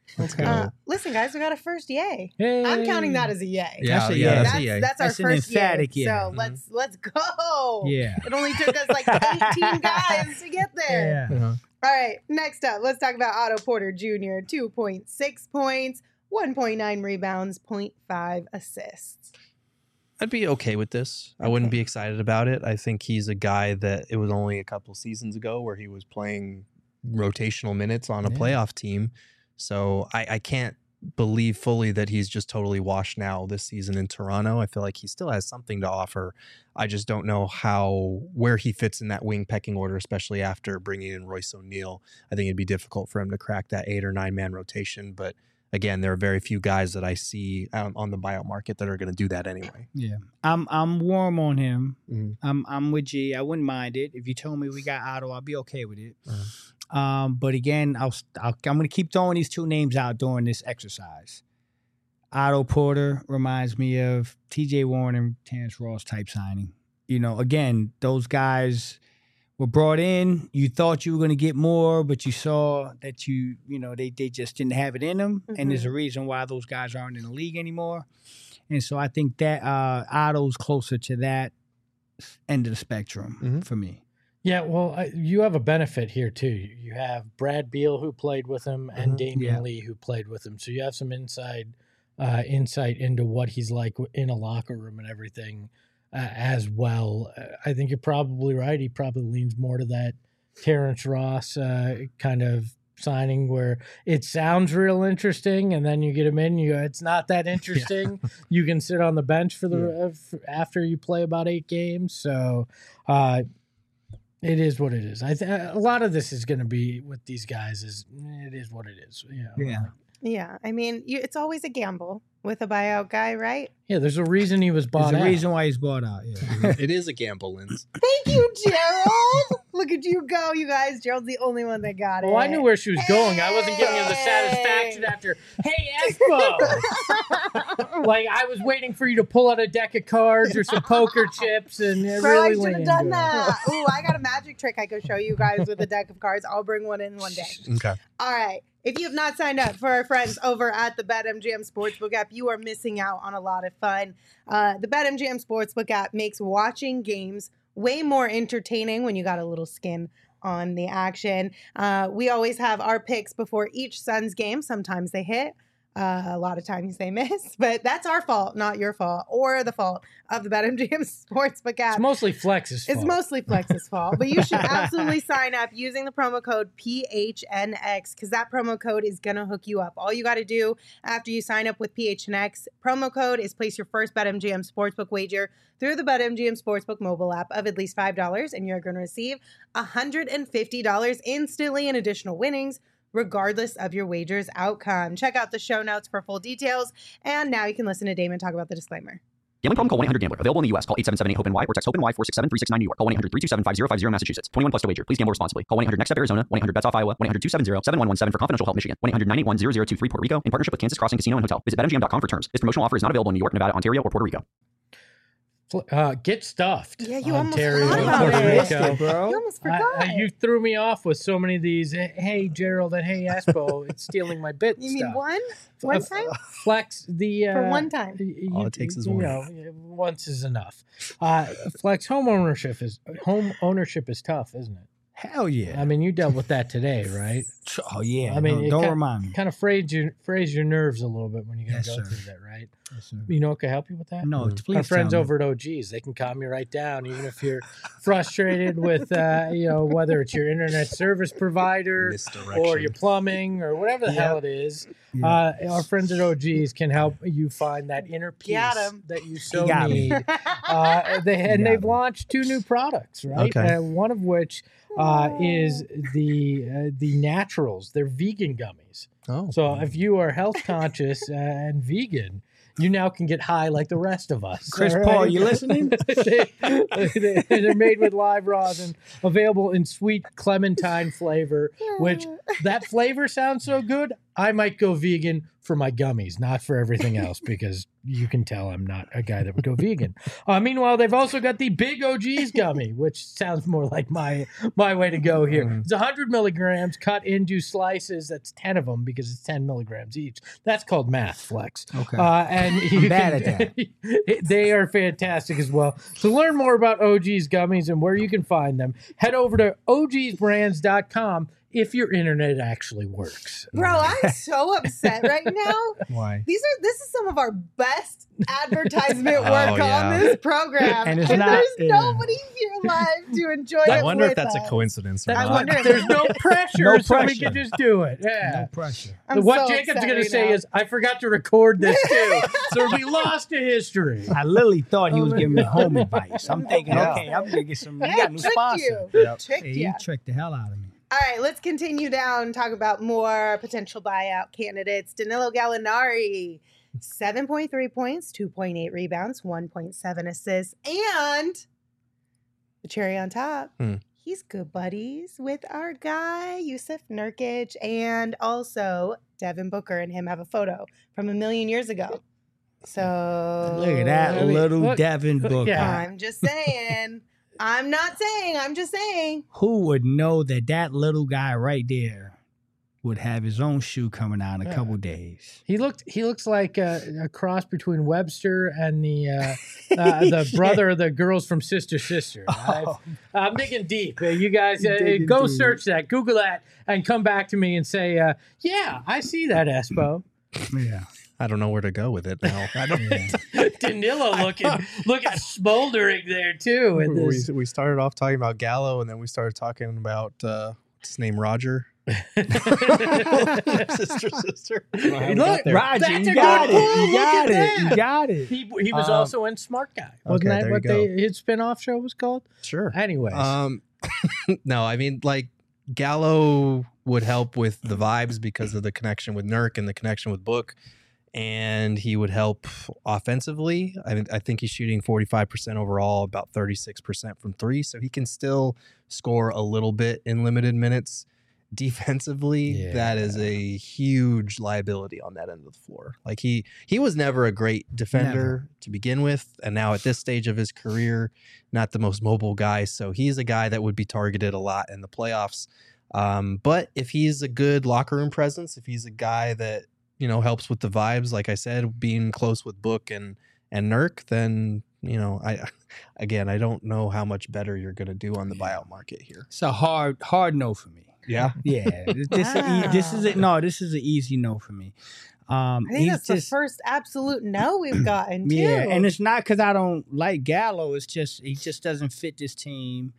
Let's go. Listen, guys, we got a first yay. Hey. I'm counting that as a yay. That's a yeah, yay. that's a yay. That's our That's an first emphatic yay. yay. So let's go. Yeah. It only took us like 18 guys to get there. Yeah. All right, next up, let's talk about Otto Porter Jr. 2.6 points, 1.9 rebounds, 0.5 assists. I'd be okay with this. I wouldn't be excited about it. I think he's a guy that it was only a couple seasons ago where he was playing rotational minutes on a playoff team. So I can't believe fully that he's just totally washed now this season in Toronto. I feel like he still has something to offer. I just don't know where he fits in that wing pecking order, especially after bringing in Royce O'Neal. I think it'd be difficult for him to crack that 8 or 9 man rotation. But again, there are very few guys that I see on the buyout market that are going to do that anyway. Yeah, I'm warm on him. Mhm. I'm with G. I wouldn't mind it if you told me we got Otto. I'll be okay with it. But again, I'm going to keep throwing these two names out during this exercise. Otto Porter reminds me of T.J. Warren and Terrence Ross type signing. You know, again, those guys were brought in. You thought you were going to get more, but you saw that they just didn't have it in them. And there's a reason why those guys aren't in the league anymore. And so I think that Otto's closer to that end of the spectrum for me. Yeah, well, you have a benefit here, too. You have Brad Beal, who played with him, and Damian Lee, who played with him. So you have some insight into what he's like in a locker room and everything as well. I think you're probably right. He probably leans more to that Terrence Ross kind of signing where it sounds real interesting, and then you get him in, you go, it's not that interesting. You can sit on the bench for after you play about 8 games. So it is what it is. A lot of this is going to be with these guys. It is what it is. Yeah, I mean, it's always a gamble with a buyout guy, right? Yeah, there's a reason he was bought out. There's a reason why he's bought out. Yeah. It is a gamble, Linz. Thank you, Gerald. Look at you go, you guys. Gerald's the only one that got it. Well, I knew where she was going. I wasn't giving you the satisfaction after, hey, Espo. Like, I was waiting for you to pull out a deck of cards or some poker chips and Bro, really I lean should have into done it. that. Ooh, I got a magic trick I could show you guys with a deck of cards. I'll bring one in one day. Okay. All right. If you have not signed up for our friends over at the BetMGM Sportsbook app, you are missing out on a lot of fun. The BetMGM Sportsbook app makes watching games way more entertaining when you got a little skin on the action. We always have our picks before each Suns game. Sometimes they hit. A lot of times they miss, but that's our fault, not your fault, or the fault of the BetMGM Sportsbook app. It's mostly Flex's fault. It's mostly Flex's fault, but you should absolutely sign up using the promo code PHNX because that promo code is going to hook you up. All you got to do after you sign up with PHNX promo code is place your first BetMGM Sportsbook wager through the BetMGM Sportsbook mobile app of at least $5, and you're going to receive $150 instantly in additional winnings, regardless of your wager's outcome. Check out the show notes for full details. And now you can listen to Damon talk about the disclaimer. Gambling problem? Call 1-800-GAMBLER. Available in the U.S. Call 877-8-HOPE-NY or text HOPE-NY 467-369 New York. Call 1-800-327-5050 Massachusetts. 21 plus to wager. Please gamble responsibly. Call 1-800-NEXT-STEP Arizona. 1-800-BETS-OFF Iowa. 1-800-270-7117 for confidential help Michigan. 1-800-981-0023 Puerto Rico in partnership with Kansas Crossing Casino and Hotel. Visit BetMGM.com for terms. This promotional offer is not available in New York, Nevada, Ontario, or Puerto Rico. Get stuffed. Yeah, you Ontario, almost forgot Puerto about Rico. it, bro. You almost forgot. You threw me off with so many of these. Hey, Gerald, and hey, Espo, it's stealing my bit. You mean one? One time? Flex the For one time. All it takes is one. Once is enough. Flex home ownership is tough, isn't it? Hell yeah. I mean, you dealt with that today, right? Oh yeah. I mean, don't remind me. Kind of phrase your nerves a little bit when you gotta go sir. through that, right? Yes, sir. You know what can help you with that? No, please. Our friends tell me. over at OGs, they can calm you right down, even if you're frustrated with, whether it's your internet service provider or your plumbing or whatever the hell it is. Yeah. Our friends at OGs can help you find that inner peace Got 'em. that you so Got 'em. need. They've launched 2 new products, right? Okay. One of which is the Naturals. They're vegan gummies. Oh. So if you are health conscious and vegan, you now can get high like the rest of us. Chris all Paul, right? you listening? They're made with live rosin, available in sweet clementine flavor, which that flavor sounds so good. I might go vegan for my gummies, not for everything else, because you can tell I'm not a guy that would go vegan. Meanwhile, they've also got the Big OG's gummy, which sounds more like my way to go here. It's 100 milligrams cut into slices. That's 10 of them because it's 10 milligrams each. That's called math, Flex. Okay. And I'm bad at that. They are fantastic as well. To learn more about OG's gummies and where you can find them, head over to ogsbrands.com. If your internet actually works. Bro, I'm so upset right now. Why? This is some of our best advertisement work on this program. And it's there's not- nobody here live to enjoy it. I wonder if with that's us. a coincidence or I not. wonder if There's no pressure, No so we pressure. can just do it. Yeah. No pressure. I'm What so Jacob's upset going to right say now. is, I forgot to record this too. So it'll be lost to history. I literally thought he was giving me home advice. I'm thinking, Yeah. okay, I'm gonna get some. You Yeah, got a new tricked sponsor. you. Yep. Tricked Hey, you. you tricked the hell out of me. All right, let's continue down, talk about more potential buyout candidates. Danilo Gallinari, 7.3 points, 2.8 rebounds, 1.7 assists, and the cherry on top, he's good buddies with our guy, Yusuf Nurkic, and also Devin Booker and him have a photo from a million years ago. So Look at that I mean, little look- Devin Booker. yeah. I'm just saying. I'm not saying. I'm just saying. Who would know that that little guy right there would have his own shoe coming out in a couple days? He looks like a cross between Webster and the brother of the girls from Sister Sister. I'm digging deep. You guys Digging go deep. search that, Google that, and come back to me and say, yeah, I see that, Espo. Yeah. I don't know where to go with it now. I don't. Danilo looking smoldering there too. In this. We started off talking about Gallo, and then we started talking about what's his name, Roger. sister. Look, Roger, that's you a got good it. pull. You Look got at it. that. You got it. He was also in Smart Guy. Wasn't okay, that there what you go. his spin-off show was called? Sure. Anyways. No, I mean, like, Gallo would help with the vibes because of the connection with Nurk and the connection with Book, and he would help offensively. I think he's shooting 45% overall, about 36% from three, so he can still score a little bit in limited minutes. Defensively, that is a huge liability on that end of the floor. Like he was never a great defender to begin with, and now at this stage of his career, not the most mobile guy. So he's a guy that would be targeted a lot in the playoffs. But if he's a good locker room presence, if he's a guy that helps with the vibes, like I said, being close with Book and Nurk, then I don't know how much better you're going to do on the buyout market here. It's a hard no for me. Yeah. Yeah. This is an easy no for me. I think that's the first absolute no we've gotten, too. Yeah, and it's not because I don't like Gallo. It's just he just doesn't fit this team.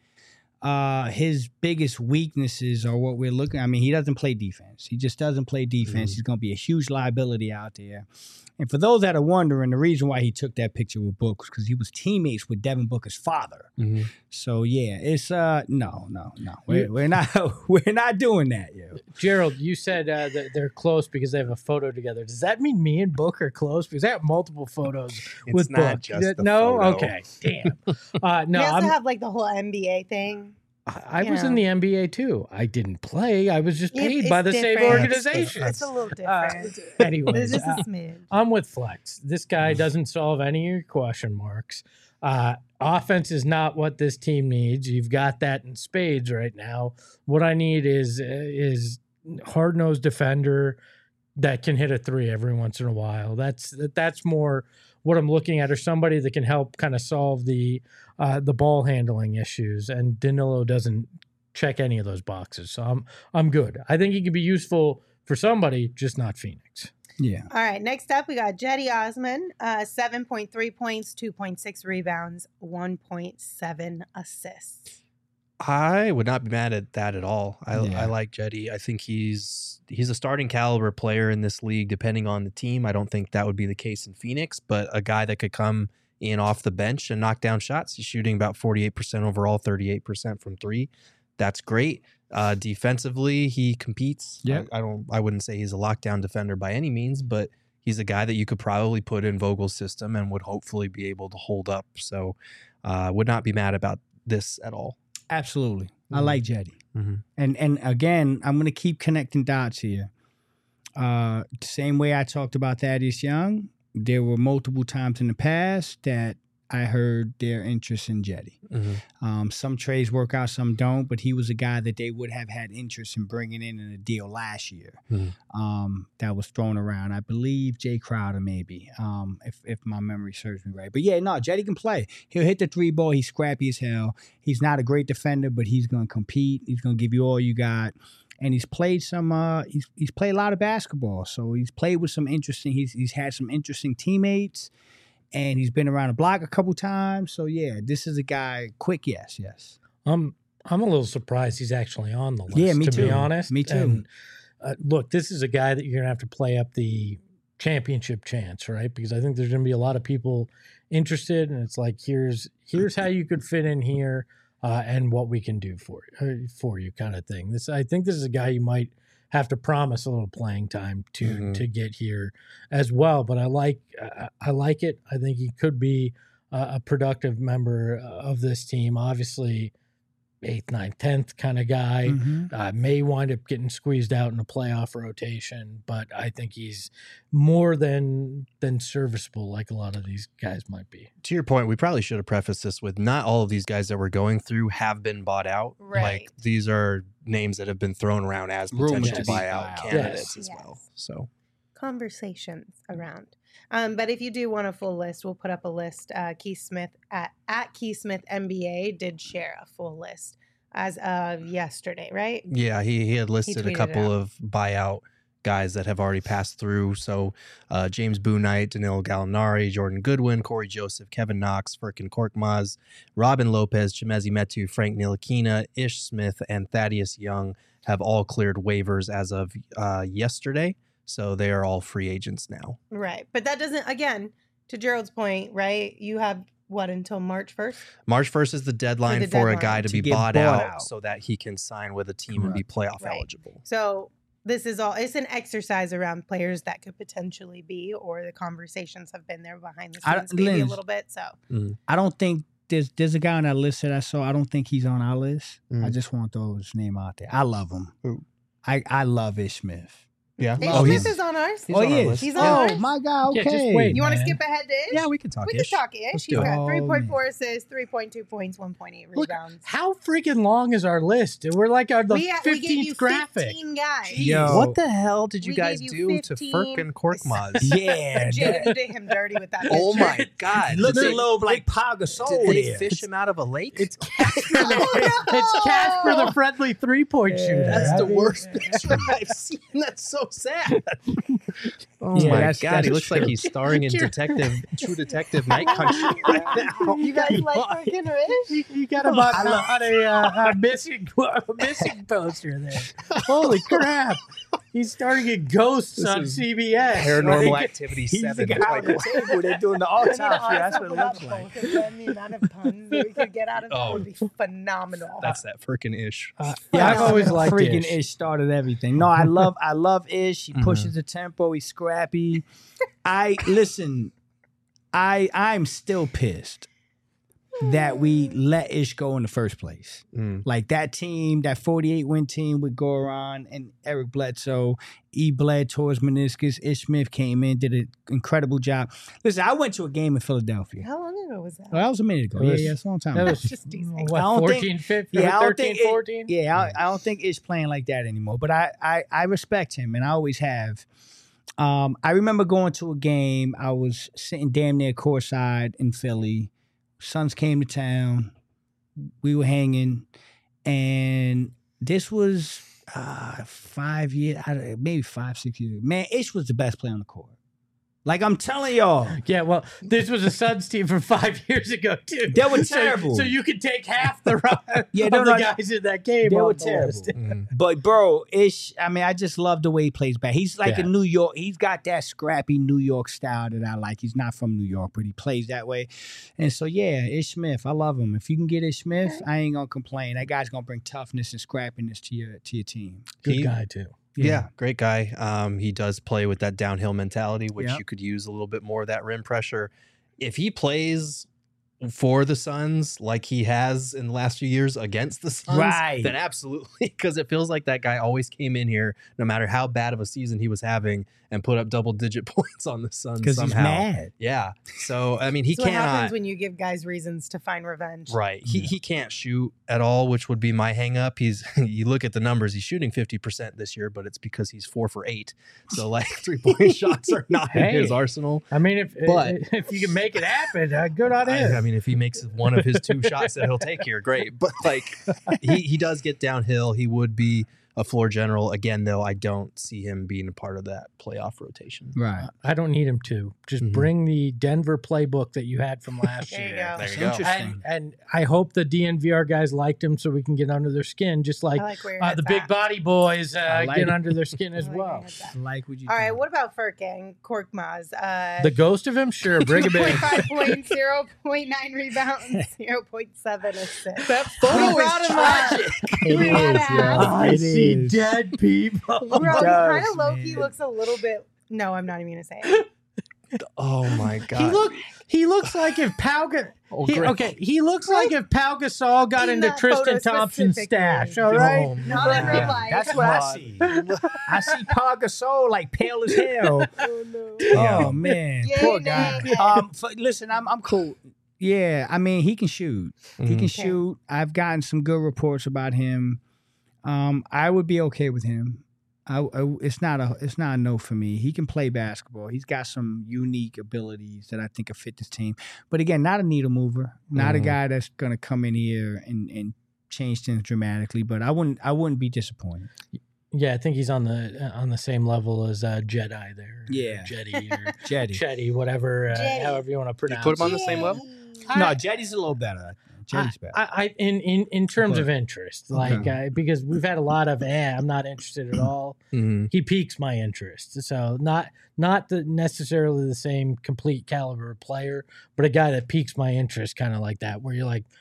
His biggest weaknesses are what we're looking. I mean, he doesn't play defense. He just doesn't play defense. He's going to be a huge liability out there. And for those that are wondering, the reason why he took that picture with Book was because he was teammates with Devin Booker's father. Mm-hmm. So yeah, it's no. We're not doing that, yo. Gerald, you said that they're close because they have a photo together. Does that mean me and Book are close? Because I have multiple photos with not Book. just the no, photo. Okay, damn. No, we also have like the whole NBA thing. I was in the NBA too. I didn't play. I was just paid It's by the same different. organization. It's a little different. Anyways, It's just a smidge. I'm with Flex. This guy doesn't solve any of your question marks. Offense is not what this team needs. You've got that in spades right now. What I need is hard-nosed defender that can hit a three every once in a while. That's more what I'm looking at, or somebody that can help kind of solve the ball handling issues. And Danilo doesn't check any of those boxes, so I'm good. I think he could be useful for somebody, just not Phoenix. Yeah. All right, next up, we got Jetty Osman, 7.3 points, 2.6 rebounds, 1.7 assists. I would not be mad at that at all. I like Jetty. I think he's a starting caliber player in this league, depending on the team. I don't think that would be the case in Phoenix, but a guy that could come in off the bench and knock down shots. He's shooting about 48% overall, 38% from three. That's great. Defensively, he competes. Yeah. I wouldn't say he's a lockdown defender by any means, but he's a guy that you could probably put in Vogel's system and would hopefully be able to hold up. So would not be mad about this at all. Absolutely. I like Jetty. Mm-hmm. And again, I'm going to keep connecting dots here. Same way I talked about Thaddeus Young, there were multiple times in the past that I heard their interest in Jetty. Some trades work out, some don't, but he was a guy that they would have had interest in bringing in a deal last year that was thrown around. I believe Jay Crowder maybe, if my memory serves me right. But yeah, no, Jetty can play. He'll hit the 3-ball. He's scrappy as hell. He's not a great defender, but he's going to compete. He's going to give you all you got. And he's played some. He's played a lot of basketball, so he's played with some interesting. He's had some interesting teammates, and he's been around the block a couple times. So yeah, this is a guy. Quick, yes. I'm a little surprised he's actually on the list. Yeah, me to too. be honest, Me too. And, look, this is a guy that you're gonna have to play up the championship chance, right? Because I think there's gonna be a lot of people interested, and it's like here's how you could fit in here. And what we can do for you, kind of thing. I think this is a guy you might have to promise a little playing time to get here as well. But I like it. I think he could be a productive member of this team. Obviously, 8th, 9th, 10th kind of guy. May wind up getting squeezed out in a playoff rotation, but I think he's more than serviceable, like a lot of these guys might be. To your point, we probably should have prefaced this with not all of these guys that we're going through have been bought out. Right. Like these are names that have been thrown around as potential buyout candidates as well. So conversations around. But if you do want a full list, we'll put up a list. Keith Smith at Keith Smith NBA did share a full list as of yesterday, right? yeah, he had listed a tweeted couple it out. of buyout guys that have already passed through. So James Bouknight, Danilo Gallinari, Jordan Goodwin, Corey Joseph, Kevin Knox, Furkan Korkmaz, Robin Lopez, Chimezi Metu, Frank Ntilikina, Ish Smith, and Thaddeus Young have all cleared waivers as of yesterday. So they are all free agents now. Right. But that doesn't, again, to Gerald's point, right? You have what, until March 1st? March 1st is the deadline the for a deadline. guy to be get bought bought out out. so that he can sign with a team and be playoff Right. eligible. So this is all, it's an exercise around players that could potentially be, or the conversations have been there behind the scenes maybe a Linz, little bit. So I don't think there's a guy on that list that I saw. I don't think he's on our list. Mm. I just want to throw his name out there. I love him. Who? I love Ish Smith. Yeah. Ish Oh, Smith he's- is on ours. He's on our yes. list. He's on Oh ours. my God. Yeah, Okay. just wait. You want to man. skip ahead to Ish? Yeah, we can talk We can Ish. talk Ish. Let's He's do it. got Oh, 3.4 assists, 3.2 points, 1.8 Look, rebounds. how freaking long is our list? We're like the We gave 15th you graphic. 15 guys. Yo. What the hell did you We guys gave you do to 15. Furkan Korkmaz? Yeah. Jay, you did him dirty with that picture. Oh my God. Looks Did a they- little like Pau Gasol Did they there. fish him out of a lake? It's Oh, no! it's Casper the friendly 3-point shooter. That's I the mean, worst picture I've seen. That's so sad. Oh Yeah, my that's- God, he that's looks like true. he's starring in True Detective Night Country right now. You guys like fucking Ish? You got him on a missing poster there. Holy crap! He's starting in Ghosts This on is CBS. Paranormal Like, Activity He's 7. the guy on the table. They're doing the autopsy. That's what it looks Both like. of them, the amount of puns that we could get out of that Oh. would be phenomenal. That's that Furkan Ish. Yeah, I've always liked freaking Ish. Ish started everything. No, I love Ish. He pushes the tempo. He's scrappy. I'm still pissed that we let Ish go in the first place. Like that team, that 48-win team with Goran and Eric Bledsoe, bled towards meniscus. Ish Smith came in, did an incredible job. Listen, I went to a game in Philadelphia. How long ago was that? Well, that was a minute ago. It was- Yeah, it's a long time That ago. was Just teasing. what, I don't 14, think- 15, Yeah, I don't 13, think 14? I don't think Ish playing like that anymore. But I respect him, and I always have. I remember going to a game. I was sitting damn near courtside in Philly. Suns came to town. We were hanging, and this was 5 years, maybe 5, 6 years. Man, Ish was the best player on the court. Like I'm telling y'all, Yeah, well, this was a Suns team from 5 years ago too. They were So- terrible. So you could take half the Yeah, of they're the not- guys in that game. they off were the terrible. list. But bro, Ish, I mean, I just love the way he plays back. He's like Yeah. a New York. He's got that scrappy New York style that I like. He's not from New York, but he plays that way. And so yeah, Ish Smith, I love him. If you can get Ish Smith, I ain't gonna complain. That guy's gonna bring toughness and scrappiness to your team. Good He- guy too. Yeah, great guy. He does play with that downhill mentality, which Yep. you could use a little bit more of that rim pressure. If he plays for the Suns like he has in the last few years against the Suns, then absolutely, because it feels like that guy always came in here, no matter how bad of a season he was having, and put up double-digit points on the Suns because he's mad. Yeah. So I mean, he That's cannot. what happens when you give guys reasons to find revenge. Right. He can't shoot at all, which would be my hang up. You look at the numbers, he's shooting 50% this year, but it's because he's 4 for 8. So like 3-point shots are not in his arsenal. I mean, if you can make it happen, good on him. I mean, if he makes one of his 2 shots that he'll take here, great. But like he does get downhill. He would be a floor general. Again, though, I don't see him being a part of that playoff rotation. Right. I don't need him to. Just bring the Denver playbook that you had from last There you year. go. There you go. Interesting. And I hope the DNVR guys liked him so we can get under their skin, just like, I like where your head's the big at. body boys like get it. under their skin as I like where well. your head's at. Like what you All right, doing? what about Furkan Korkmaz? The ghost of him? Sure, bring him in. 0.5 points, 0.9 rebounds, 0.7 assists. That photo brought is him up. tragic. It We gotta is, ask. yeah. I It see is. dead people. Bro, he does, kind of low-key man. looks a little bit... No, I'm not even going to say it. Oh my God. He looks like if Pau he looks like if Pau Gasol got In into that Tristan photo Thompson's specifically. stash. All right. Oh, Not in real life. That's what I see. I see Paul Gasol like pale as hell. Oh, no. Oh man, Yay, poor nay, guy. nay. Listen, I'm cool. Yeah, I mean he can shoot. He can shoot. I've gotten some good reports about him. I would be okay with him. It's not a no for me. He can play basketball. He's got some unique abilities that I think will fit this team. But again, not a needle mover. Not a guy that's gonna come in here and change things dramatically. But I wouldn't be disappointed. Yeah, I think he's on the same level as Jedi there. Yeah. Jetty or Jetty. Chetty, whatever, Jetty. however you want to pronounce. put him on the same level? No, Jetty's a little better. Jetty's better. In terms But- of interest, like because we've had a lot of I'm not interested at all. He piques my interest, so not necessarily the same complete caliber of player, but a guy that piques my interest, kind of like that, where you're like,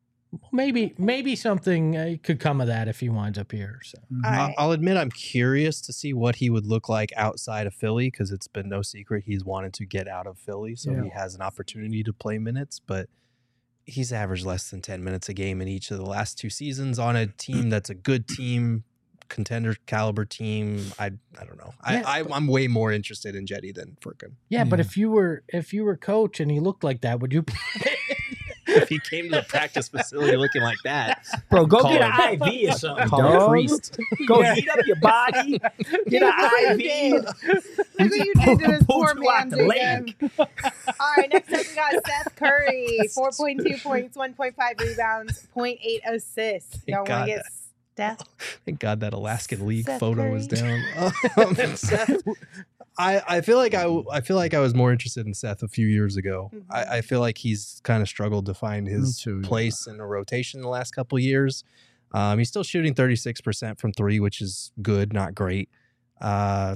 maybe something could come of that if he winds up here. So All right. I'll admit I'm curious to see what he would look like outside of Philly, because it's been no secret he's wanted to get out of Philly, so he has an opportunity to play minutes, but he's averaged less than 10 minutes a game in each of the last 2 seasons on a team that's a good team, contender caliber team. I don't know. I'm way more interested in Jetty than Furkan. yeah, but if you were coach and he looked like that, would you? If he came to the practice facility looking like that, Bro, go Call get him. an IV or something, call him dog. priest. Go heat up your body. Get an IV. Look what you did to this Pull poor you out man, the Jacob. All right, next up we got Seth Curry, 4.2 points, 1.5 rebounds, 0.8 assists. Y'all want God to get Steph? Thank God that Alaskan League Seth photo was Curry. down. Seth, I feel like I was more interested in Seth a few years ago. Mhm. I feel like he's kind of struggled to find his too, yeah. place in a rotation the last couple of years. He's still shooting 36% from 3, which is good, not great. I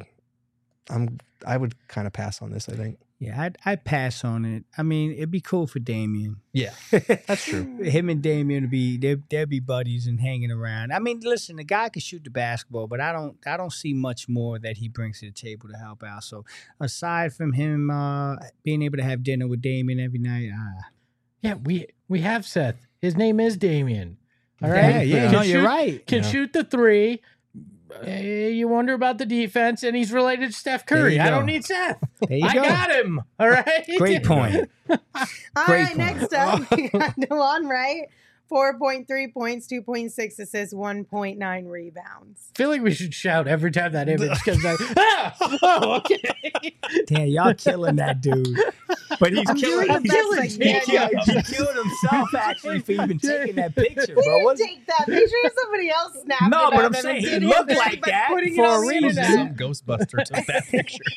would kind of pass on this, I think. Yeah, I'd pass on it. I mean, it'd be cool for Damian. Yeah, that's true. Him and Damian would be they'd be buddies and hanging around. I mean, listen, the guy can shoot the basketball, but I don't see much more that he brings to the table to help out. So aside from him being able to have dinner with Damian every night, Yeah, we have Seth. His name is Damian. All right. yeah, Can no, you're shoot- right. Can Yeah. shoot the 3. You wonder about the defense, and he's related to Steph Curry. you I go. don't need Seth. There you I go. got him. All right. Great point. All Great right, point. next up we got DeLon Wright, 4.3 points, 2.6 assists, 1.9 rebounds. I feel like we should shout every time that image comes out. Oh, okay. Damn, y'all killing that dude. But he's I'm killing doing the best I can. He killed himself actually for even taking that picture, He bro. didn't What's take that picture. Somebody else snapped No, it but of I'm him saying and he did looked it like by that putting it for a on the reason. internet. Some Ghostbuster took that picture.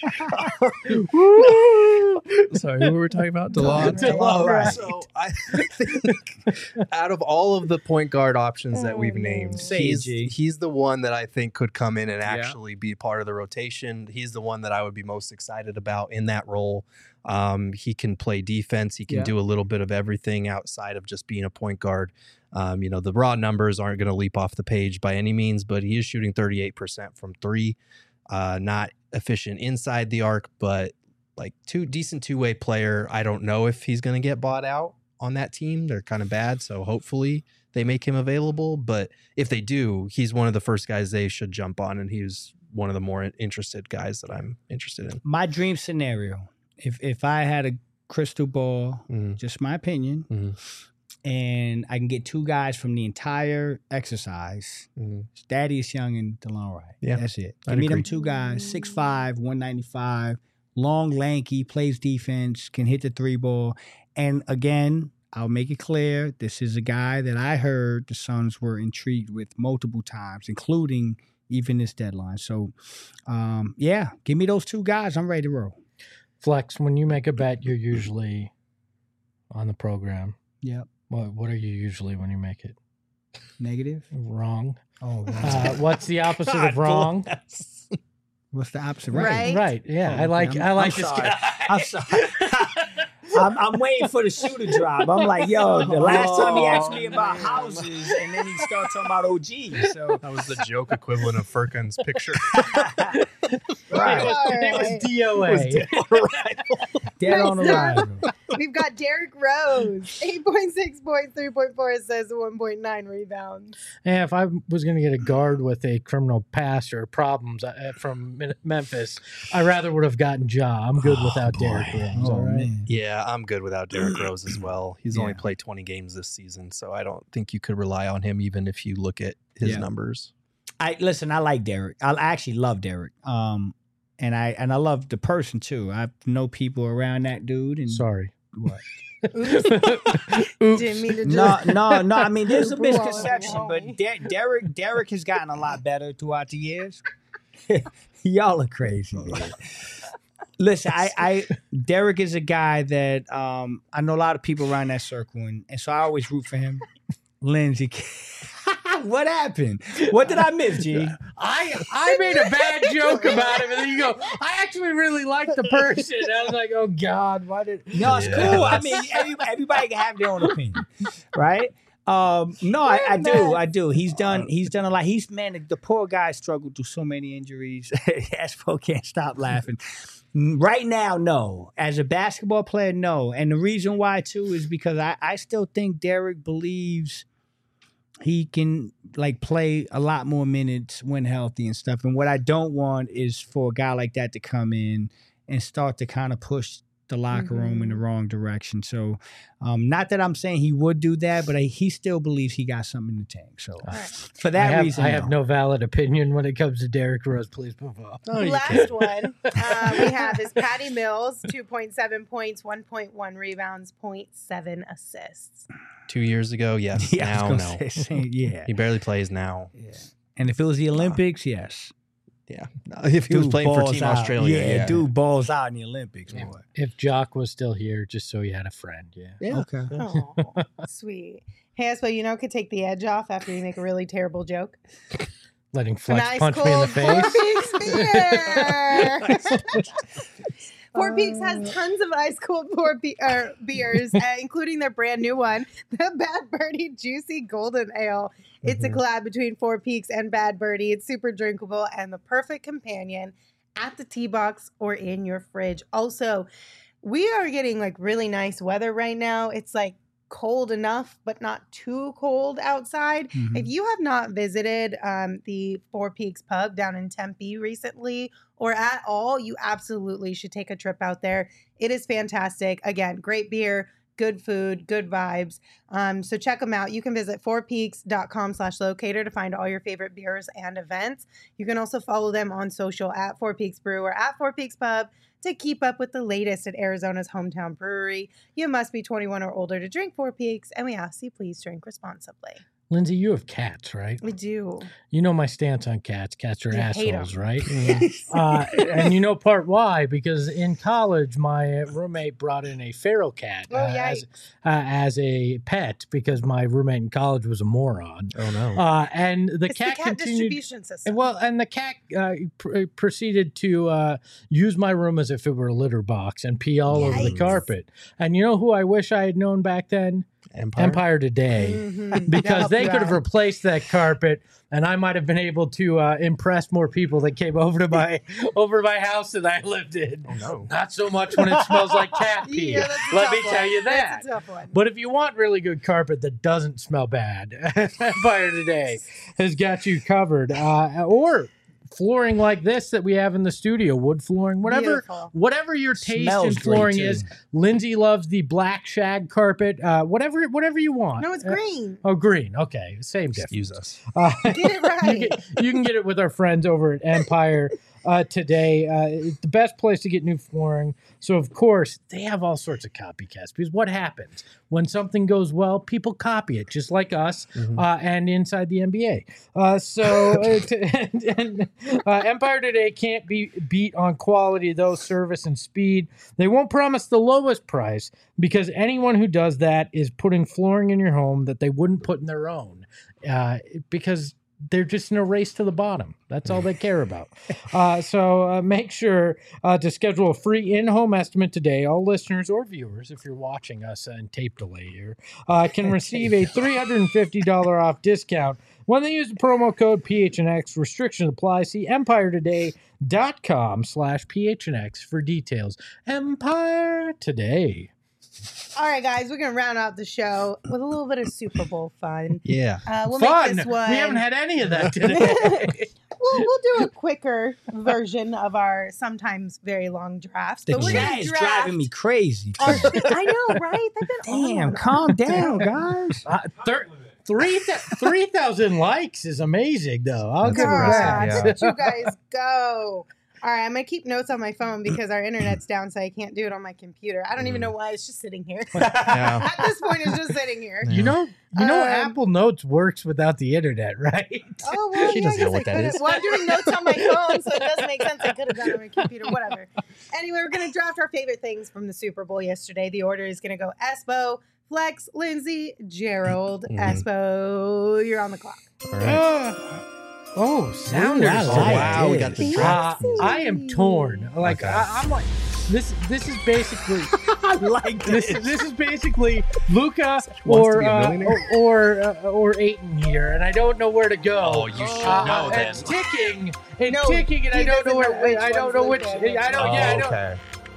Sorry, who were we talking about? DeLon. DeLon Wright. So I think out of all of the point guard options that we've named, Say it, G. he's the one that I think could come in and actually be part of the rotation. He's the one that I would be most excited about in that role. He can play defense. He can do a little bit of everything outside of just being a point guard. The raw numbers aren't going to leap off the page by any means, but he is shooting 38% from 3. Not efficient inside the arc, but like decent two-way player. I don't know if he's going to get bought out. on that team. They're kind of bad, so hopefully they make him available. But if they do, he's one of the first guys they should jump on, and he's one of the more interested guys that I'm interested in. My dream scenario, if I had a crystal ball, just my opinion, and I can get 2 guys from the entire exercise, Thaddeus Young and DeLon Wright. Yeah, that's it. I'd Give me them agree. 2 guys, 6'5", 195, long, lanky, plays defense, can hit the 3-ball. And again, I'll make it clear, this is a guy that I heard the Suns were intrigued with multiple times, including even this deadline. So, yeah, give me those 2 guys. I'm ready to roll. Flex, when you make a bet, you're usually on the program. Yep. What are you usually when you make it? Negative? Wrong. Oh, what's the opposite of wrong? What's the opposite? Right. Right. Yeah. Oh, I like I'm this sorry. guy. I'm sorry. I'm waiting for the shoe to drop. I'm like, yo, the last time he asked me about houses, and then he started talking about OGs. So That was the joke equivalent of Furkan's picture. right, It was DOA. dead on arrival. We've got Derrick Rose, 8.6 points, 3.4 assists, 1.9 rebounds. Yeah, if I was going to get a guard with a criminal past or problems from Memphis, I rather would have gotten Ja. I'm good without Derrick Rose. All right. man. Yeah, I'm good without Derrick Rose as well. He's only played 20 games this season, so I don't think you could rely on him even if you look at his numbers. I like Derrick. I actually love Derrick. And I love the person too. I know people around that dude. And Sorry. what? Didn't mean to just No. I mean, there's a Pull out misconception, my but Derrick has gotten a lot better throughout the years. Y'all are crazy, man. Listen, Derrick is a guy that I know a lot of people around that circle, and so I always root for him. Lindsay, what happened? What did I miss, G? I made a bad joke about him, and then you go, I actually really like the person. I was like, oh, God, why did... No, it's cool. I mean, everybody can have their own opinion, right? No, I do. He's done a lot. The poor guy struggled through so many injuries. Espo can't stop laughing. Right now, no. As a basketball player, no. And the reason why, too, is because I still think Derrick believes he can play a lot more minutes when healthy and stuff. And what I don't want is for a guy like that to come in and start to kind of push the locker room in the wrong direction. So not that I'm saying he would do that, but he still believes he got something in the tank. So for that reason, I have no valid opinion when it comes to Derrick Rose. Please move on. Last one we have is Patty Mills, 2.7 points, 1.1 rebounds, 0.7 assists. 2 years ago, yes. Yeah, Now, no. Yeah. He barely plays now. Yeah. And if it was the Olympics, yes. Yeah. If he was Dude playing for balls Team out. Australia. Yeah, dude balls out in the Olympics, boy. If Jock was still here, just so he had a friend, Yeah. Okay. Oh, sweet. Hey, Espo, could take the edge off after you make a really terrible joke. Letting An Flex ice punch me in the cold face. 4 Peaks beer. 4 Peaks has tons of ice cold beers, including their brand new one, the Bad Birdie Juicy Golden Ale. It's a collab between 4 Peaks and Bad Birdie. It's super drinkable and the perfect companion at the tea box or in your fridge. Also, we are getting really nice weather right now. It's cold enough, but not too cold outside. If you have not visited the 4 Peaks pub down in Tempe recently or at all, you absolutely should take a trip out there. It is fantastic. Again, great beer, good food, good vibes. So check them out. You can visit 4peaks.com/locator to find all your favorite beers and events. You can also follow them on social at 4 Peaks Brew or at 4 Peaks Pub to keep up with the latest at Arizona's hometown brewery. You must be 21 or older to drink 4 Peaks, and we ask you please drink responsibly. Lindsay, you have cats, right? We do. You know my stance on cats. Cats are You hate assholes, 'em. right? Yes. And you know part why, because in college, my roommate brought in a feral cat as a pet because my roommate in college was a moron. Oh, no. And the It's cat the cat continued. distribution system. And the cat proceeded to use my room as if it were a litter box and pee all over the Yikes. carpet. And you know who I wish I had known back then? Empire Today, Mhm. because Help they you could have out. replaced that carpet, and I might have been able to impress more people that came over to my house that I lived in. Oh no. Not so much when it smells like cat pee. Yeah, that's a Let tough me tell one. you that. That's a tough one. But if you want really good carpet that doesn't smell bad, Empire Today has got you covered. Or flooring like this that we have in the studio, wood flooring, Beautiful. whatever your taste Smells in great, flooring too. is. Lindsay loves the black shag carpet. Whatever you want. No, it's green. Oh, green. Okay, same difference. Excuse us. Get it right. You can get it with our friends over at Empire Today. It's the best place to get new flooring. So, of course, they have all sorts of copycats, because what happens when something goes well? People copy it, just like us and inside the NBA. Empire Today can't be beat on quality, though, service and speed. They won't promise the lowest price, because anyone who does that is putting flooring in your home that they wouldn't put in their own, because they're just in a race to the bottom. That's all they care about. So make sure to schedule a free in-home estimate today. All listeners or viewers, if you're watching us in tape delay here, can receive a $350 off discount when they use the promo code PHNX. Restrictions apply. See EmpireToday.com/PHNX for details. Empire Today. All right, guys, we're gonna round out the show with a little bit of Super Bowl fun. Yeah. We'll Fun. make this one. We haven't had any of that today. We'll do a quicker version of our sometimes very long drafts. The But we're chat gonna is draft. driving me crazy. I know, right? They've been on Damn, and calm on. down, guys. 3,000 likes is amazing, though. I'll give her God, that. look at you guys go. All right, I'm gonna keep notes on my phone because our internet's down, so I can't do it on my computer. I don't even know why. It's just sitting here. Yeah. At this point, it's just sitting here. You know, Apple Notes works without the internet, right? Oh, well, She yeah, doesn't I know guess what I that could've- is. Well, I'm doing notes on my phone, so it does make sense. I could have done it on my computer, whatever. Anyway, we're going to draft our favorite things from the Super Bowl yesterday. The order is going to go Espo, Flex, Lindsay, Gerald. Espo, you're on the clock. All right. Oh, Sounders. I Oh, like wow. We it. got the draft. I am torn. Like, Okay. I'm like, this is basically... I like This is basically Luca wants to or be a millionaire. or Aiton here, and I don't know where to go. Oh, you should know then. It's ticking. It's No, ticking, and he I don't know doesn't know where. which I don't one's know which. Luca and which I don't. Oh, Yeah, I know. okay.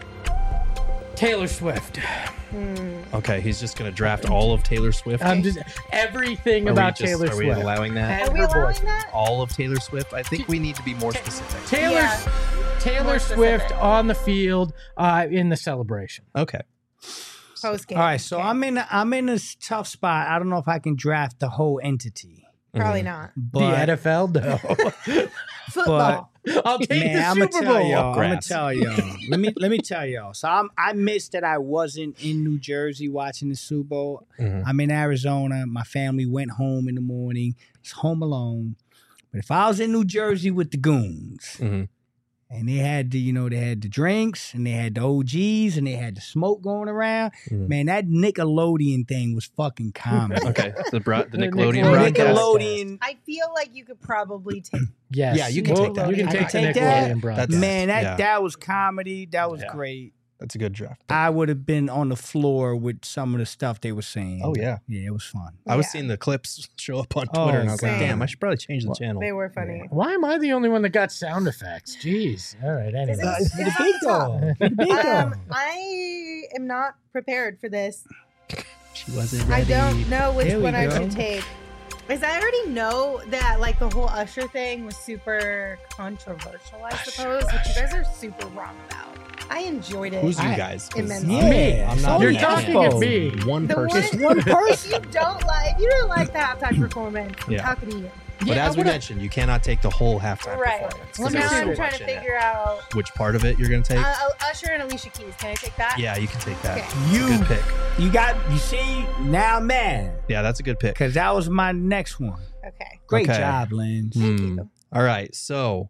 Taylor Swift. Okay, he's just going to draft all of Taylor Swift. I'm just everything about Taylor Are we Swift. allowing that? And Are we her allowing voice. that? All of Taylor Swift? I think we need to be more specific. Taylor More Swift specific. on the field in the celebration. Okay. Post game. All right, so I'm in a tough spot. I don't know if I can draft the whole entity, Probably not. but the NFL, no. Football. I'll take man, the I'm Super gonna tell Bowl. y'all. I'm gonna Grass. tell y'all. let me tell y'all. So I missed that I wasn't in New Jersey watching the Super Bowl. Mhm. I'm in Arizona. My family went home in the morning. It's home alone. But if I was in New Jersey with the goons, Mhm. and they had the drinks, and they had the OGs, and they had the smoke going around, Mhm. man, that Nickelodeon thing was fucking comedy. Okay. The Nickelodeon Nickelodeon broadcast. Nickelodeon. I feel like you could probably take. Yes. Yeah, you can take that. You can I take can the take that. Nickelodeon broadcast. Man, Yeah. that was comedy. That was Yeah. great. That's a good draft. I would have been on the floor with some of the stuff they were saying. Oh, yeah. Yeah, it was fun. I was Yeah. seeing the clips show up on Oh, Twitter, and I was like, same. damn, I should probably change the channel. They were funny. Why am I the only one that got sound effects? Jeez. All right. Anyway. It's The big dog. The big dog. I am not prepared for this. She wasn't I ready. don't know which There we one I go. should take. Because I already know that like the whole Usher thing was super controversial, I suppose, which you guys are super wrong about. I enjoyed it. Who's you guys? 'Cause immensely. Yeah, I'm not. You're on that talking channel. at me. One The person. one person you don't like. You don't like the halftime performance. I'm Yeah. talking to you. But as we mentioned, you cannot take the whole halftime Right. performance. So 'cause now there's I'm so trying much to in it. figure out Which part of it you're going to take? Usher and Alicia Keys. Can I take that? Yeah, you can take that. Okay. That's a good pick. You see, now I'm mad. Yeah, that's a good pick. Because that was my next one. Okay. Great Okay. job, Lynn. All right, so,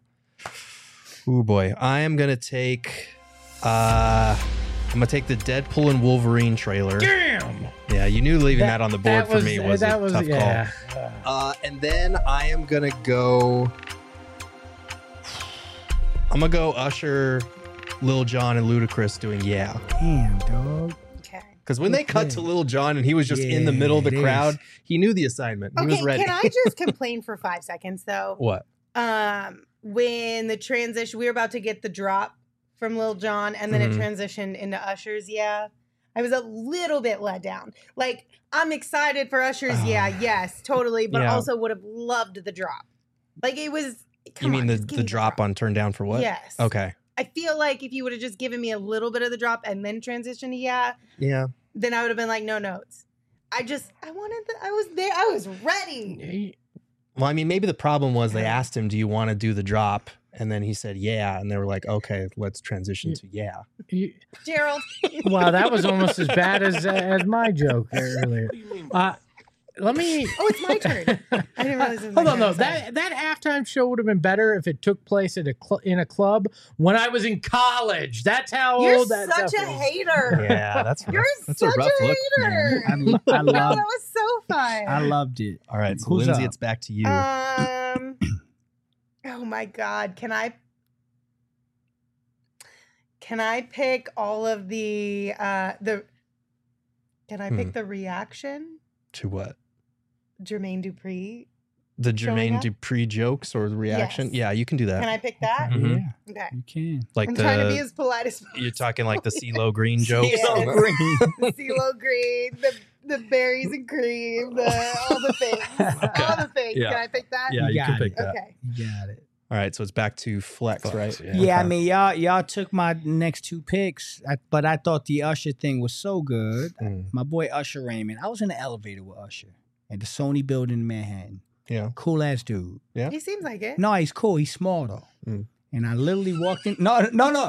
oh boy, I am gonna take. I'm gonna take the Deadpool and Wolverine trailer. Damn. Yeah, you knew leaving that on the board for me was a tough yeah. call. And then I am gonna go. I'm gonna go Usher, Lil Jon, and Ludacris doing "Yeah." Damn, dog. Okay. Because when they cut to Lil Jon and he was just in the middle of the crowd, he knew the assignment. He was ready. Can I just complain for 5 seconds though? What? When the transition, we were about to get the drop from Lil Jon, and then it transitioned into Usher's. Yeah, I was a little bit let down. Like, I'm excited for Usher's. Yes, totally, but also would have loved the drop. Like, it was. You mean the drop on Turn Down for What? Yes. Okay. I feel like if you would have just given me a little bit of the drop and then transitioned to then I would have been like, no notes. I was there. I was ready. Well, I mean, maybe the problem was they asked him, do you want to do the drop? And then he said, yeah. And they were like, okay, let's transition to yeah. Gerald. Wow, that was almost as bad as my joke earlier. Let me. Oh, it's my turn. I didn't realize it was Hold my on, turn. no. That halftime show would have been better if it took place at in a club when I was in college. That's how You're old that such stuff a is. hater. Yeah, that's rough. You're That's such a rough look. hater. I No, love. that was so fun. I loved it. All right, so Who's Lindsay, up? it's back to you. Oh my God. Can I pick all of the can I pick the reaction? To what? Jermaine Dupri. The showing Jermaine up? Dupri jokes or the reaction? Yes. Yeah, you can do that. Can I pick that? Mhm. Yeah, Okay. you can. Like I'm trying to be as polite as possible. you're talking like the CeeLo Green jokes. CeeLo Green. The CeeLo Green, the berries and cream, all the things. All the things. Yeah. Can I pick that? Yeah, you can got pick it. that. Okay. You got it. All right, so it's back to Flex, right? Yeah, I mean, y'all took my next two picks, but I thought the Usher thing was so good. My boy Usher Raymond. I was in the elevator with Usher at the Sony building in Manhattan. Yeah. Cool ass dude. Yeah. He seems like it. No, he's cool. He's small though. And I literally walked in. No.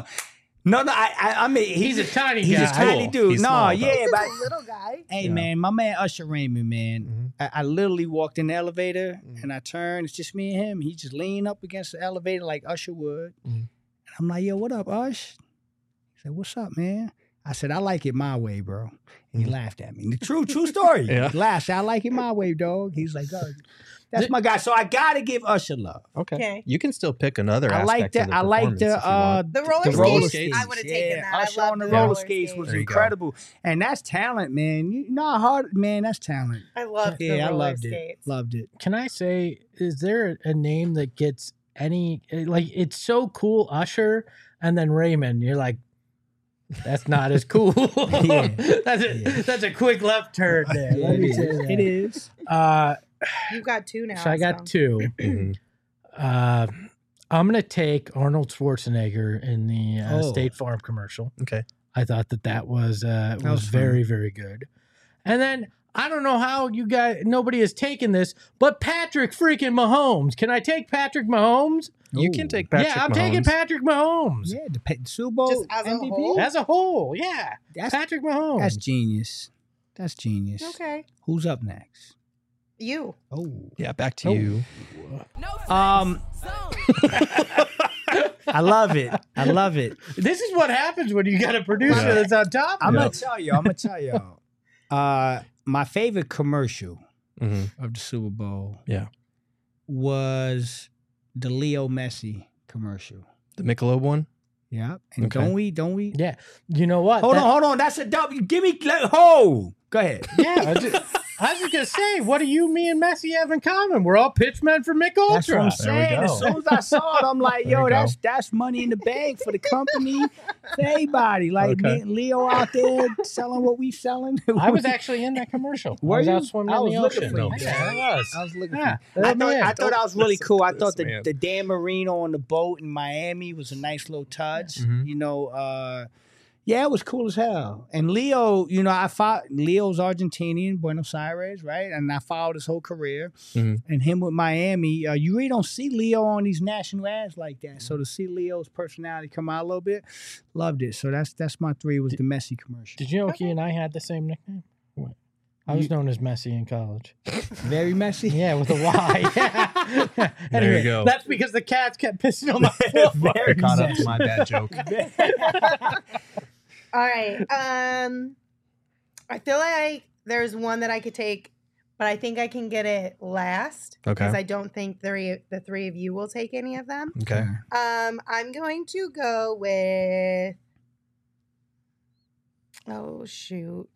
I mean, He's a tiny he's guy. a tiny dude. He's no, small, though. yeah, He's but a little guy. hey, man, my man Usher Raymond, man. I literally walked in the elevator and I turned. It's just me and him. He just leaned up against the elevator like Usher would. And I'm like, yo, what up, Ush? He said, what's up, man? I said, I like it my way, bro. And he laughed at me. True story. Yeah. He laughed. I like it my way, dog. He's like, oh, that's my guy. So I gotta give Usher love. Okay. You can still pick another I like aspect of the I like performance if you want. The roller the skates. roller skates. I would have taken that. I Usher love on the the roller roller skates was There you go. incredible. And that's talent, man. You know how hard, man, that's talent. I love the Yeah, I roller loved skates. it. Loved it. Can I say, is there a name that gets any, like, it's so cool, Usher, and then Raymond, you're like, that's not as cool. Yeah. That's a quick left turn there. Yeah, Let me it say is. that. It is. You've got two now. So I got two. I'm going to take Arnold Schwarzenegger in the State Farm commercial. Okay. I thought that was was very, very good. And then I don't know how nobody has taken this, but Patrick freaking Mahomes. Can I take Patrick Mahomes? You can take Patrick Yeah, I'm Mahomes. taking Patrick Mahomes. Yeah, the Super Bowl Just as a MVP. whole? As a whole, yeah. Patrick Mahomes. That's genius. That's genius. Okay. Who's up next? You. Oh. Yeah, back to you. I love it. I love it. This is what happens when you got a producer that's on top of I'm it. gonna tell y'all. My favorite commercial of the Super Bowl was the Leo Messi commercial. The Michelob one? Yeah. And Okay. don't we? Yeah. You know what? Hold on. That's a W. Give me Go ahead. Yeah. I was just going to say, what do you, me, and Messi have in common? We're all pitchmen for Mick Ultra. That's what I'm saying. go. As soon as I saw it, I'm like, There yo, we go. that's money in the bank for the company, for everybody. Like me and Leo out there selling what we selling. I was actually in that commercial. Were I was you? out swimming I in was the looking ocean. for you. Yeah, I was. I was looking Yeah. for you. I Man, thought that was really listen cool. to I thought this man. the Dan Marino on the boat in Miami was a nice little touch. You know, yeah, it was cool as hell. And Leo, you know, Leo's Argentinian, Buenos Aires, right? And I followed his whole career. And him with Miami, you really don't see Leo on these national ads like that. So to see Leo's personality come out a little bit, loved it. So that's my three was the Messi commercial. Did you know he and I had the same nickname? What? I was known as Messi in college. Very messy. Yeah, with a Y. Yeah. There you go. That's because the cats kept pissing on my foot. Very Caught up to messy. my bad joke. All right. I feel like there's one that I could take, but I think I can get it last. Okay. Because I don't think the three of you will take any of them. Oh, shoot.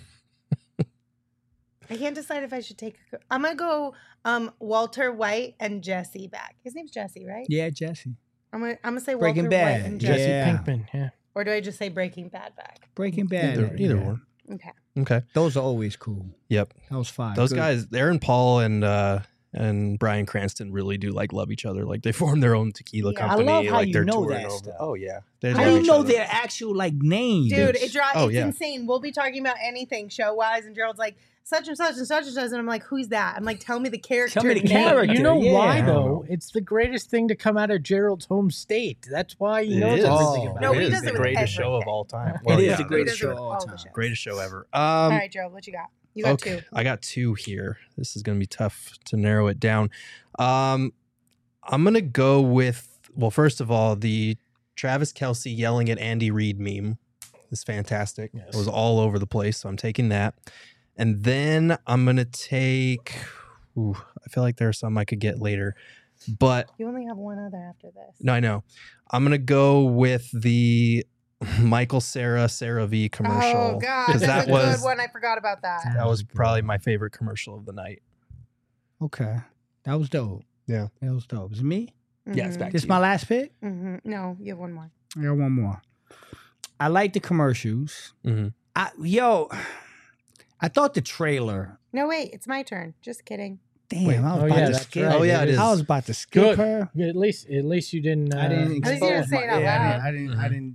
I can't decide if I should take. I'm gonna go Walter White and Jesse back. His name's Jesse, right? Yeah, Jesse. I'm gonna say Breaking Walter Bad. White and Jesse. Jesse Yeah. Pinkman, yeah. Or do I just say Breaking Bad back? Breaking Bad. Either one. Okay. Okay. Those are always cool. Yep. That was fine. Those Good. guys, Aaron Paul and Bryan Cranston really do like love each other. Like they formed their own tequila Yeah. I company. love how like you they're know touring that over. stuff. Oh yeah. I They didn't love know each other. their actual like names. Dude, It's- it's yeah. insane. We'll be talking about anything show wise, and Gerald's like, such and such and such and such. And I'm like, who's that? I'm like, tell me the character. Tell me the name. character. You know yeah. why though? It's the greatest thing to come out of Gerald's home state. That's why he It knows is. everything Oh. about No, it. he It does is it the with greatest show of everything. all time. It is yeah. the He greatest does it show with of all all the time. shows. Greatest show ever. All right, Gerald, what you got? You got Okay, two. I got two here. This is going to be tough to narrow it down. I'm going to go with, well, first of all, the Travis Kelce yelling at Andy Reid meme is fantastic. Yes. It was all over the place, so I'm taking that. And then I'm going to take, I feel like there are some I could get later, but You only have one other after this. no, I know. I'm going to go with the Michael Sarah V commercial. Oh, God. 'cause That's that a was good one. I forgot about that. that was probably my favorite commercial of the night. Okay. That was dope. Yeah. That was dope. Is it me? Yeah, it's back This to my you. last pick? No, you have one more. I got one more. I like the commercials. Mhm. I thought the trailer. No, wait. It's my turn. Just kidding. Damn, Wait, I was oh, about yeah, to that's skip. right. Oh, yeah, it is. I was about to skip Good. her. At least you didn't. I didn't At least you didn't expose say it out yeah, loud. I didn't.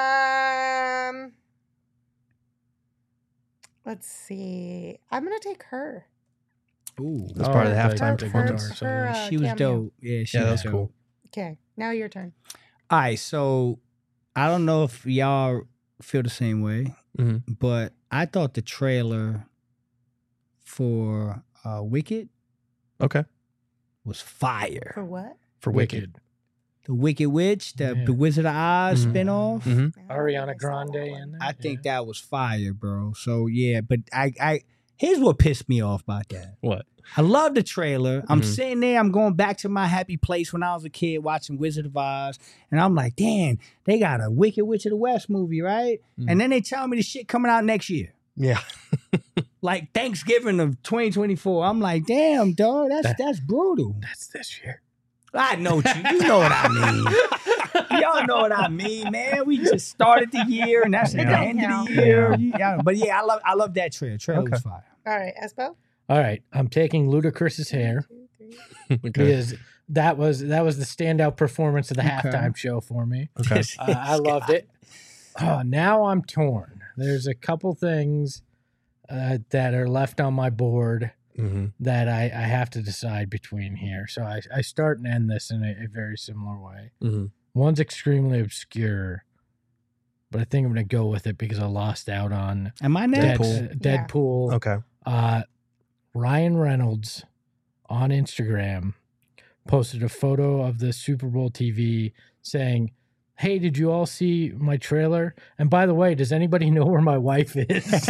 Let's see. I'm gonna take her. Ooh, That's part of the Alright, halftime good. performance. Her, she was cameo. dope. Yeah, she Yeah, that was was cool. dope. Okay, now your turn. All right, so I don't know if y'all feel the same way, Mhm. but I thought the trailer for Wicked Okay. was fire. For what? For Wicked. The Wicked Witch, the Yeah. Wizard of Oz Mhm. spinoff. Mhm. I don't think Ariana I saw Grande that one. in there. I think that was fire, bro. So yeah, but I here's what pissed me off about that. What? I love the trailer. I'm Mhm. sitting there, I'm going back to my happy place when I was a kid watching Wizard of Oz, and I'm like, damn, they got a Wicked Witch of the West movie, right? Mhm. And then they tell me the shit coming out next year. Yeah. Like Thanksgiving of 2024. I'm like, damn, dog, that's brutal. That's this year. I know you know what I mean. Y'all know what I mean, man. We just started the year, and that's at the don't end of count. the year. Yeah, but yeah, I love that trailer. Trailer was Okay. fire. All right, Espo. All right, I'm taking Ludacris's hair Okay. because that was the standout performance of the Okay. halftime show for me. Okay. I loved it. Oh, now I'm torn. There's a couple things that are left on my board Mm-hmm. that I have to decide between here. So I start and end this in a very similar way. Mm-hmm. One's extremely obscure, but I think I'm going to go with it because I lost out on Am I next? Deadpool. Okay. Ryan Reynolds on Instagram posted a photo of the Super Bowl TV saying, "Hey, did you all see my trailer? And by the way, does anybody know where my wife is?"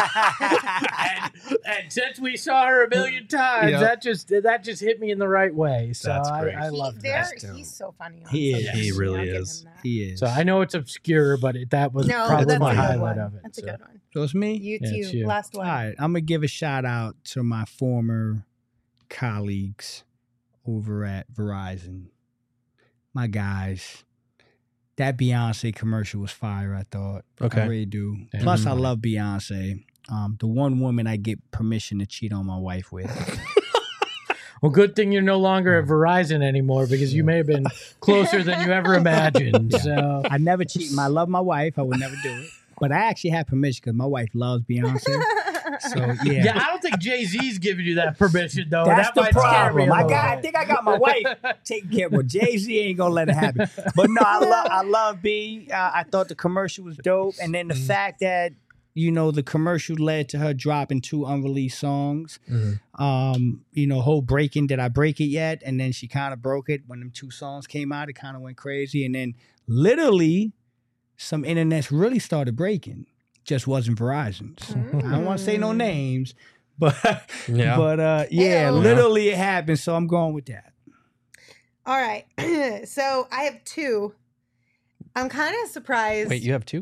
and since we saw her a million times, Yep. that just hit me in the right way. So That's great. I love that. He's so funny. on He is. social He media. really I'll give is. him that. He is. So I know it's obscure, but that was No, probably that's my a good highlight one. of it. That's a So. good one. So it's me? You Yeah, too. it's you. Last All one. right. I'm going to give a shout out to my former colleagues over at Verizon. My guys. That Beyonce commercial was fire, I thought. Okay. I really do. Yeah. Plus, I Mhm. love Beyonce. The one woman I get permission to cheat on my wife with. Well, good thing you're no longer at Verizon anymore because you may have been closer than you ever imagined. So I never cheat. I love my wife. I would never do it. But I actually have permission because my wife loves Beyonce. So, yeah. yeah, I don't think Jay-Z's giving you that permission though. That's that the might scare me a problem. I little bit. think I got my wife taking care of it. Jay-Z ain't gonna let it happen. But no, I love B. I thought the commercial was dope, and then the fact that the commercial led to her dropping 2 unreleased songs. Whole breaking. Did I break it yet? And then she kind of broke it when them 2 songs came out. It kind of went crazy, and then literally some internets really started breaking. Just wasn't Verizon's. I don't want to say no names, but Yeah. yeah, Ew. literally it happened. So I'm going with that. All right. So I have 2. I'm kind of surprised. Wait, you have 2?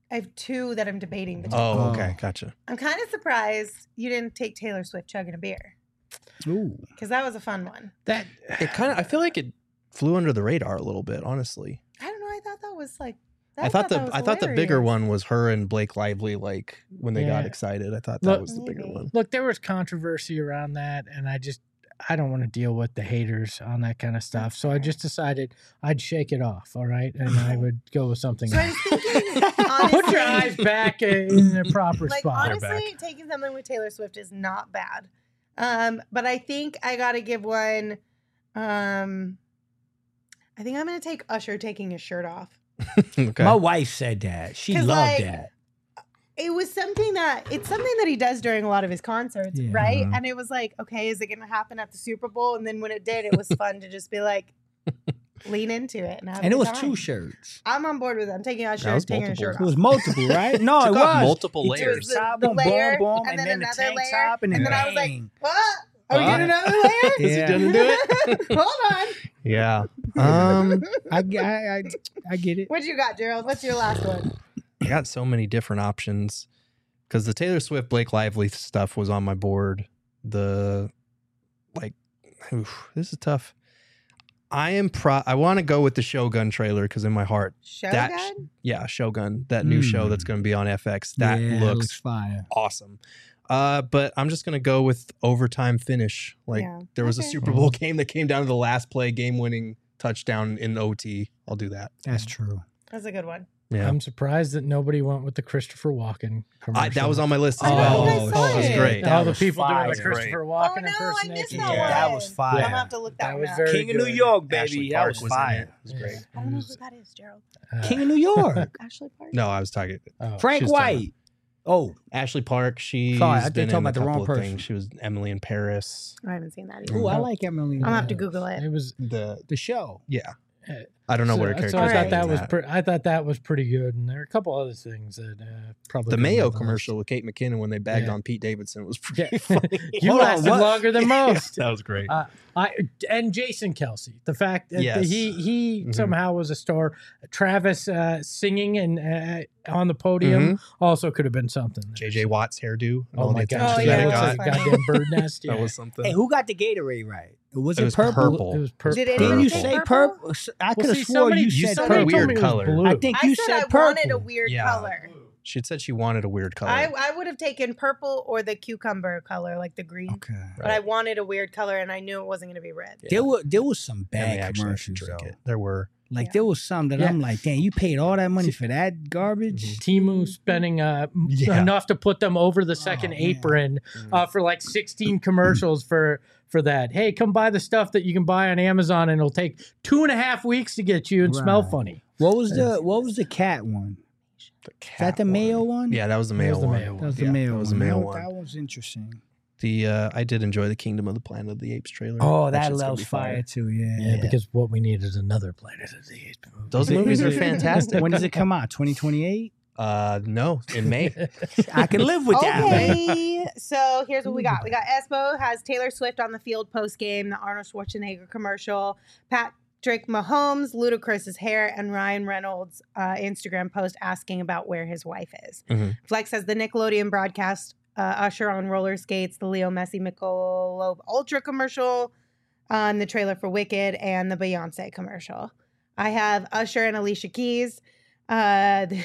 I have two that I'm debating between. Oh, okay, gotcha. I'm kind of surprised you didn't take Taylor Swift chugging a beer. Ooh, because that was a fun one. That it kind of. I feel like it flew under the radar a little bit, honestly. I don't know. I thought that was like. I thought the bigger one was her and Blake Lively, like when they got excited. I thought that was the bigger one. Look, there was controversy around that, and I don't want to deal with the haters on that kind of stuff. So I just decided I'd shake it off, all right? And I would go with something else. Put your eyes back in the proper spot. Honestly, taking something with Taylor Swift is not bad. But I think I got to give one. I think I'm going to take Usher taking his shirt off. Okay. My wife said that. She loved that. It was something that he does during a lot of his concerts, right? And it was like, okay, is it going to happen at the Super Bowl? And then when it did, it was fun to just be like, lean into it. And it was two shirts. I'm on board with it. I'm taking Usher, taking a shirt off. It was multiple, right? No, it was multiple layers. It was the layer, and then another layer, and then I was like, what? Are we doing another layer? Is he gonna do it? Hold on. Yeah. I get it. What you got, Gerald? What's your last one? I got so many different options because the Taylor Swift, Blake Lively stuff was on my board. This is tough. I want to go with the Shogun trailer because in my heart, Shogun? Shogun, that new show that's going to be on FX. That looks fire, awesome. But I'm just gonna go with overtime finish. There was a Super Bowl game that came down to the last play, game-winning touchdown in OT. I'll do that. That's true. That's a good one. Yeah. I'm surprised that nobody went with the Christopher Walken commercial. That was on my list as well. That was great. All the people doing the Christopher Walken impersonation. I missed that one. That was fire. I'm gonna have to look that one up. King of New York, baby. Ashley That Park was was fire. It was great. I don't know who that is, Gerald. King of New York. Ashley Park? No, I was talking. Frank White. Oh, Ashley Park. She's sorry, I been talking in a about the couple wrong of person. things. She was Emily in Paris. I haven't seen that either. Oh, I like Emily. I'm gonna have to Google it. It was the show. Yeah. I don't know what her character so I is. thought that was I thought that was pretty good, and there are a couple other things that probably the Mayo commercial with Kate McKinnon when they bagged on Pete Davidson was pretty funny. You lasted longer than most. That was great. And Jason Kelsey, the fact that Yes. he somehow was a star. Travis singing and on the podium also could have been something. JJ Watt's hairdo. And Oh all my the gosh, attention yeah, that it it looks got. like a goddamn bird nest. That was something. Hey, who got the Gatorade right? Was It it was purple? purple. It was purple. Did Didn't anyone you say say purple? purple? I could have see, swore somebody- you said somebody purple. told Weird me it was color. blue. I think you I said said I purple. wanted a weird Yeah. color. She said she wanted a weird color. I would have taken purple or the cucumber color, like the green. Okay. But I wanted a weird color, and I knew it wasn't going to be red. There was some and they bad actually had to commercials drink though. it. There were. Like there was some that I'm like, damn, you paid all that money for that garbage. Timu spending enough to put them over the second apron for like 16 commercials for that. Hey, come buy the stuff that you can buy on Amazon, and it'll take 2.5 weeks to get you and smell Right. funny. What was the cat one? Is that the Mayo one? Yeah, that was the Mayo one. That was the Yeah, Mayo that was one. the Mayo That- one. That was interesting. I did enjoy the Kingdom of the Planet of the Apes trailer. Oh, that shit's gonna loves be fire too. Yeah, because what we need is another Planet of the Apes movie. Those movies are fantastic. When does it come out? 2028? No, in May. I can live with that. Okay, so here's what we got. We got Espo has Taylor Swift on the field post game, the Arnold Schwarzenegger commercial, Patrick Mahomes, Ludacris's hair, and Ryan Reynolds' Instagram post asking about where his wife is. Flex has the Nickelodeon broadcast, Usher on roller skates, the Leo Messi Michelob Ultra commercial, the trailer for Wicked, and the Beyonce commercial. I have Usher and Alicia Keys. The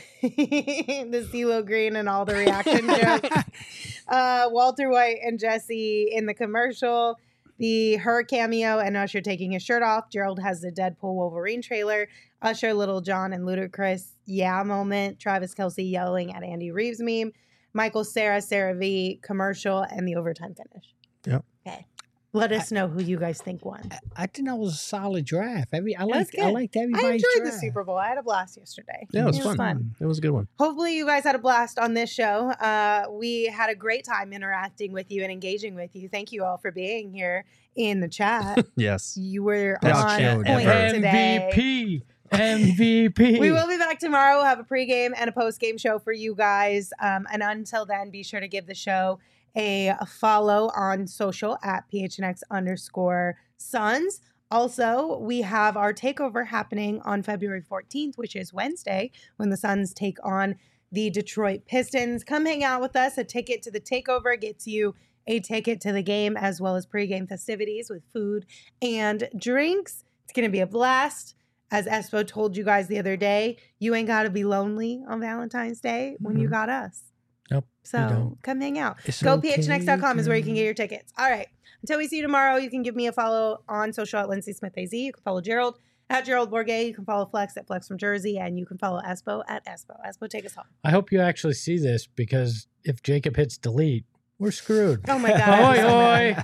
CeeLo Green and all the reaction jokes. Walter White and Jesse in the commercial. Her cameo and Usher taking his shirt off. Gerald has the Deadpool Wolverine trailer. Usher, Little John, and Ludacris moment. Travis Kelsey yelling at Andy Reeves meme. Michael Sarah V commercial, and the overtime finish. Yep. Okay. Let us know who you guys think won. I think that was a solid draft. I That's liked good. everybody's I enjoyed the draft. Super Bowl. I had a blast yesterday. Yeah, it was fun. It was a good one. Hopefully you guys had a blast on this show. We had a great time interacting with you and engaging with you. Thank you all for being here in the chat. Yes. You were Best on chat point ever. today. MVP. We will be back tomorrow. We'll have a pregame and a postgame show for you guys. And until then, be sure to give the show a follow on social at PHNX_Suns. Also, we have our takeover happening on February 14th, which is Wednesday, when the Suns take on the Detroit Pistons. Come hang out with us. A ticket to the takeover gets you a ticket to the game as well as pregame festivities with food and drinks. It's going to be a blast. As Espo told you guys the other day, you ain't got to be lonely on Valentine's Day when you got us. Nope. So come hang out. It's GoPHNX.com is where you can okay. get your tickets. All right. Until we see you tomorrow, you can give me a follow on social at Lindsay Smith AZ. You can follow Gerald at Gerald Bourget. You can follow Flex at Flex from Jersey. And you can follow Espo at Espo. Espo, take us home. I hope you actually see this because if Jacob hits delete, we're screwed. Oh my God. Oi, oi.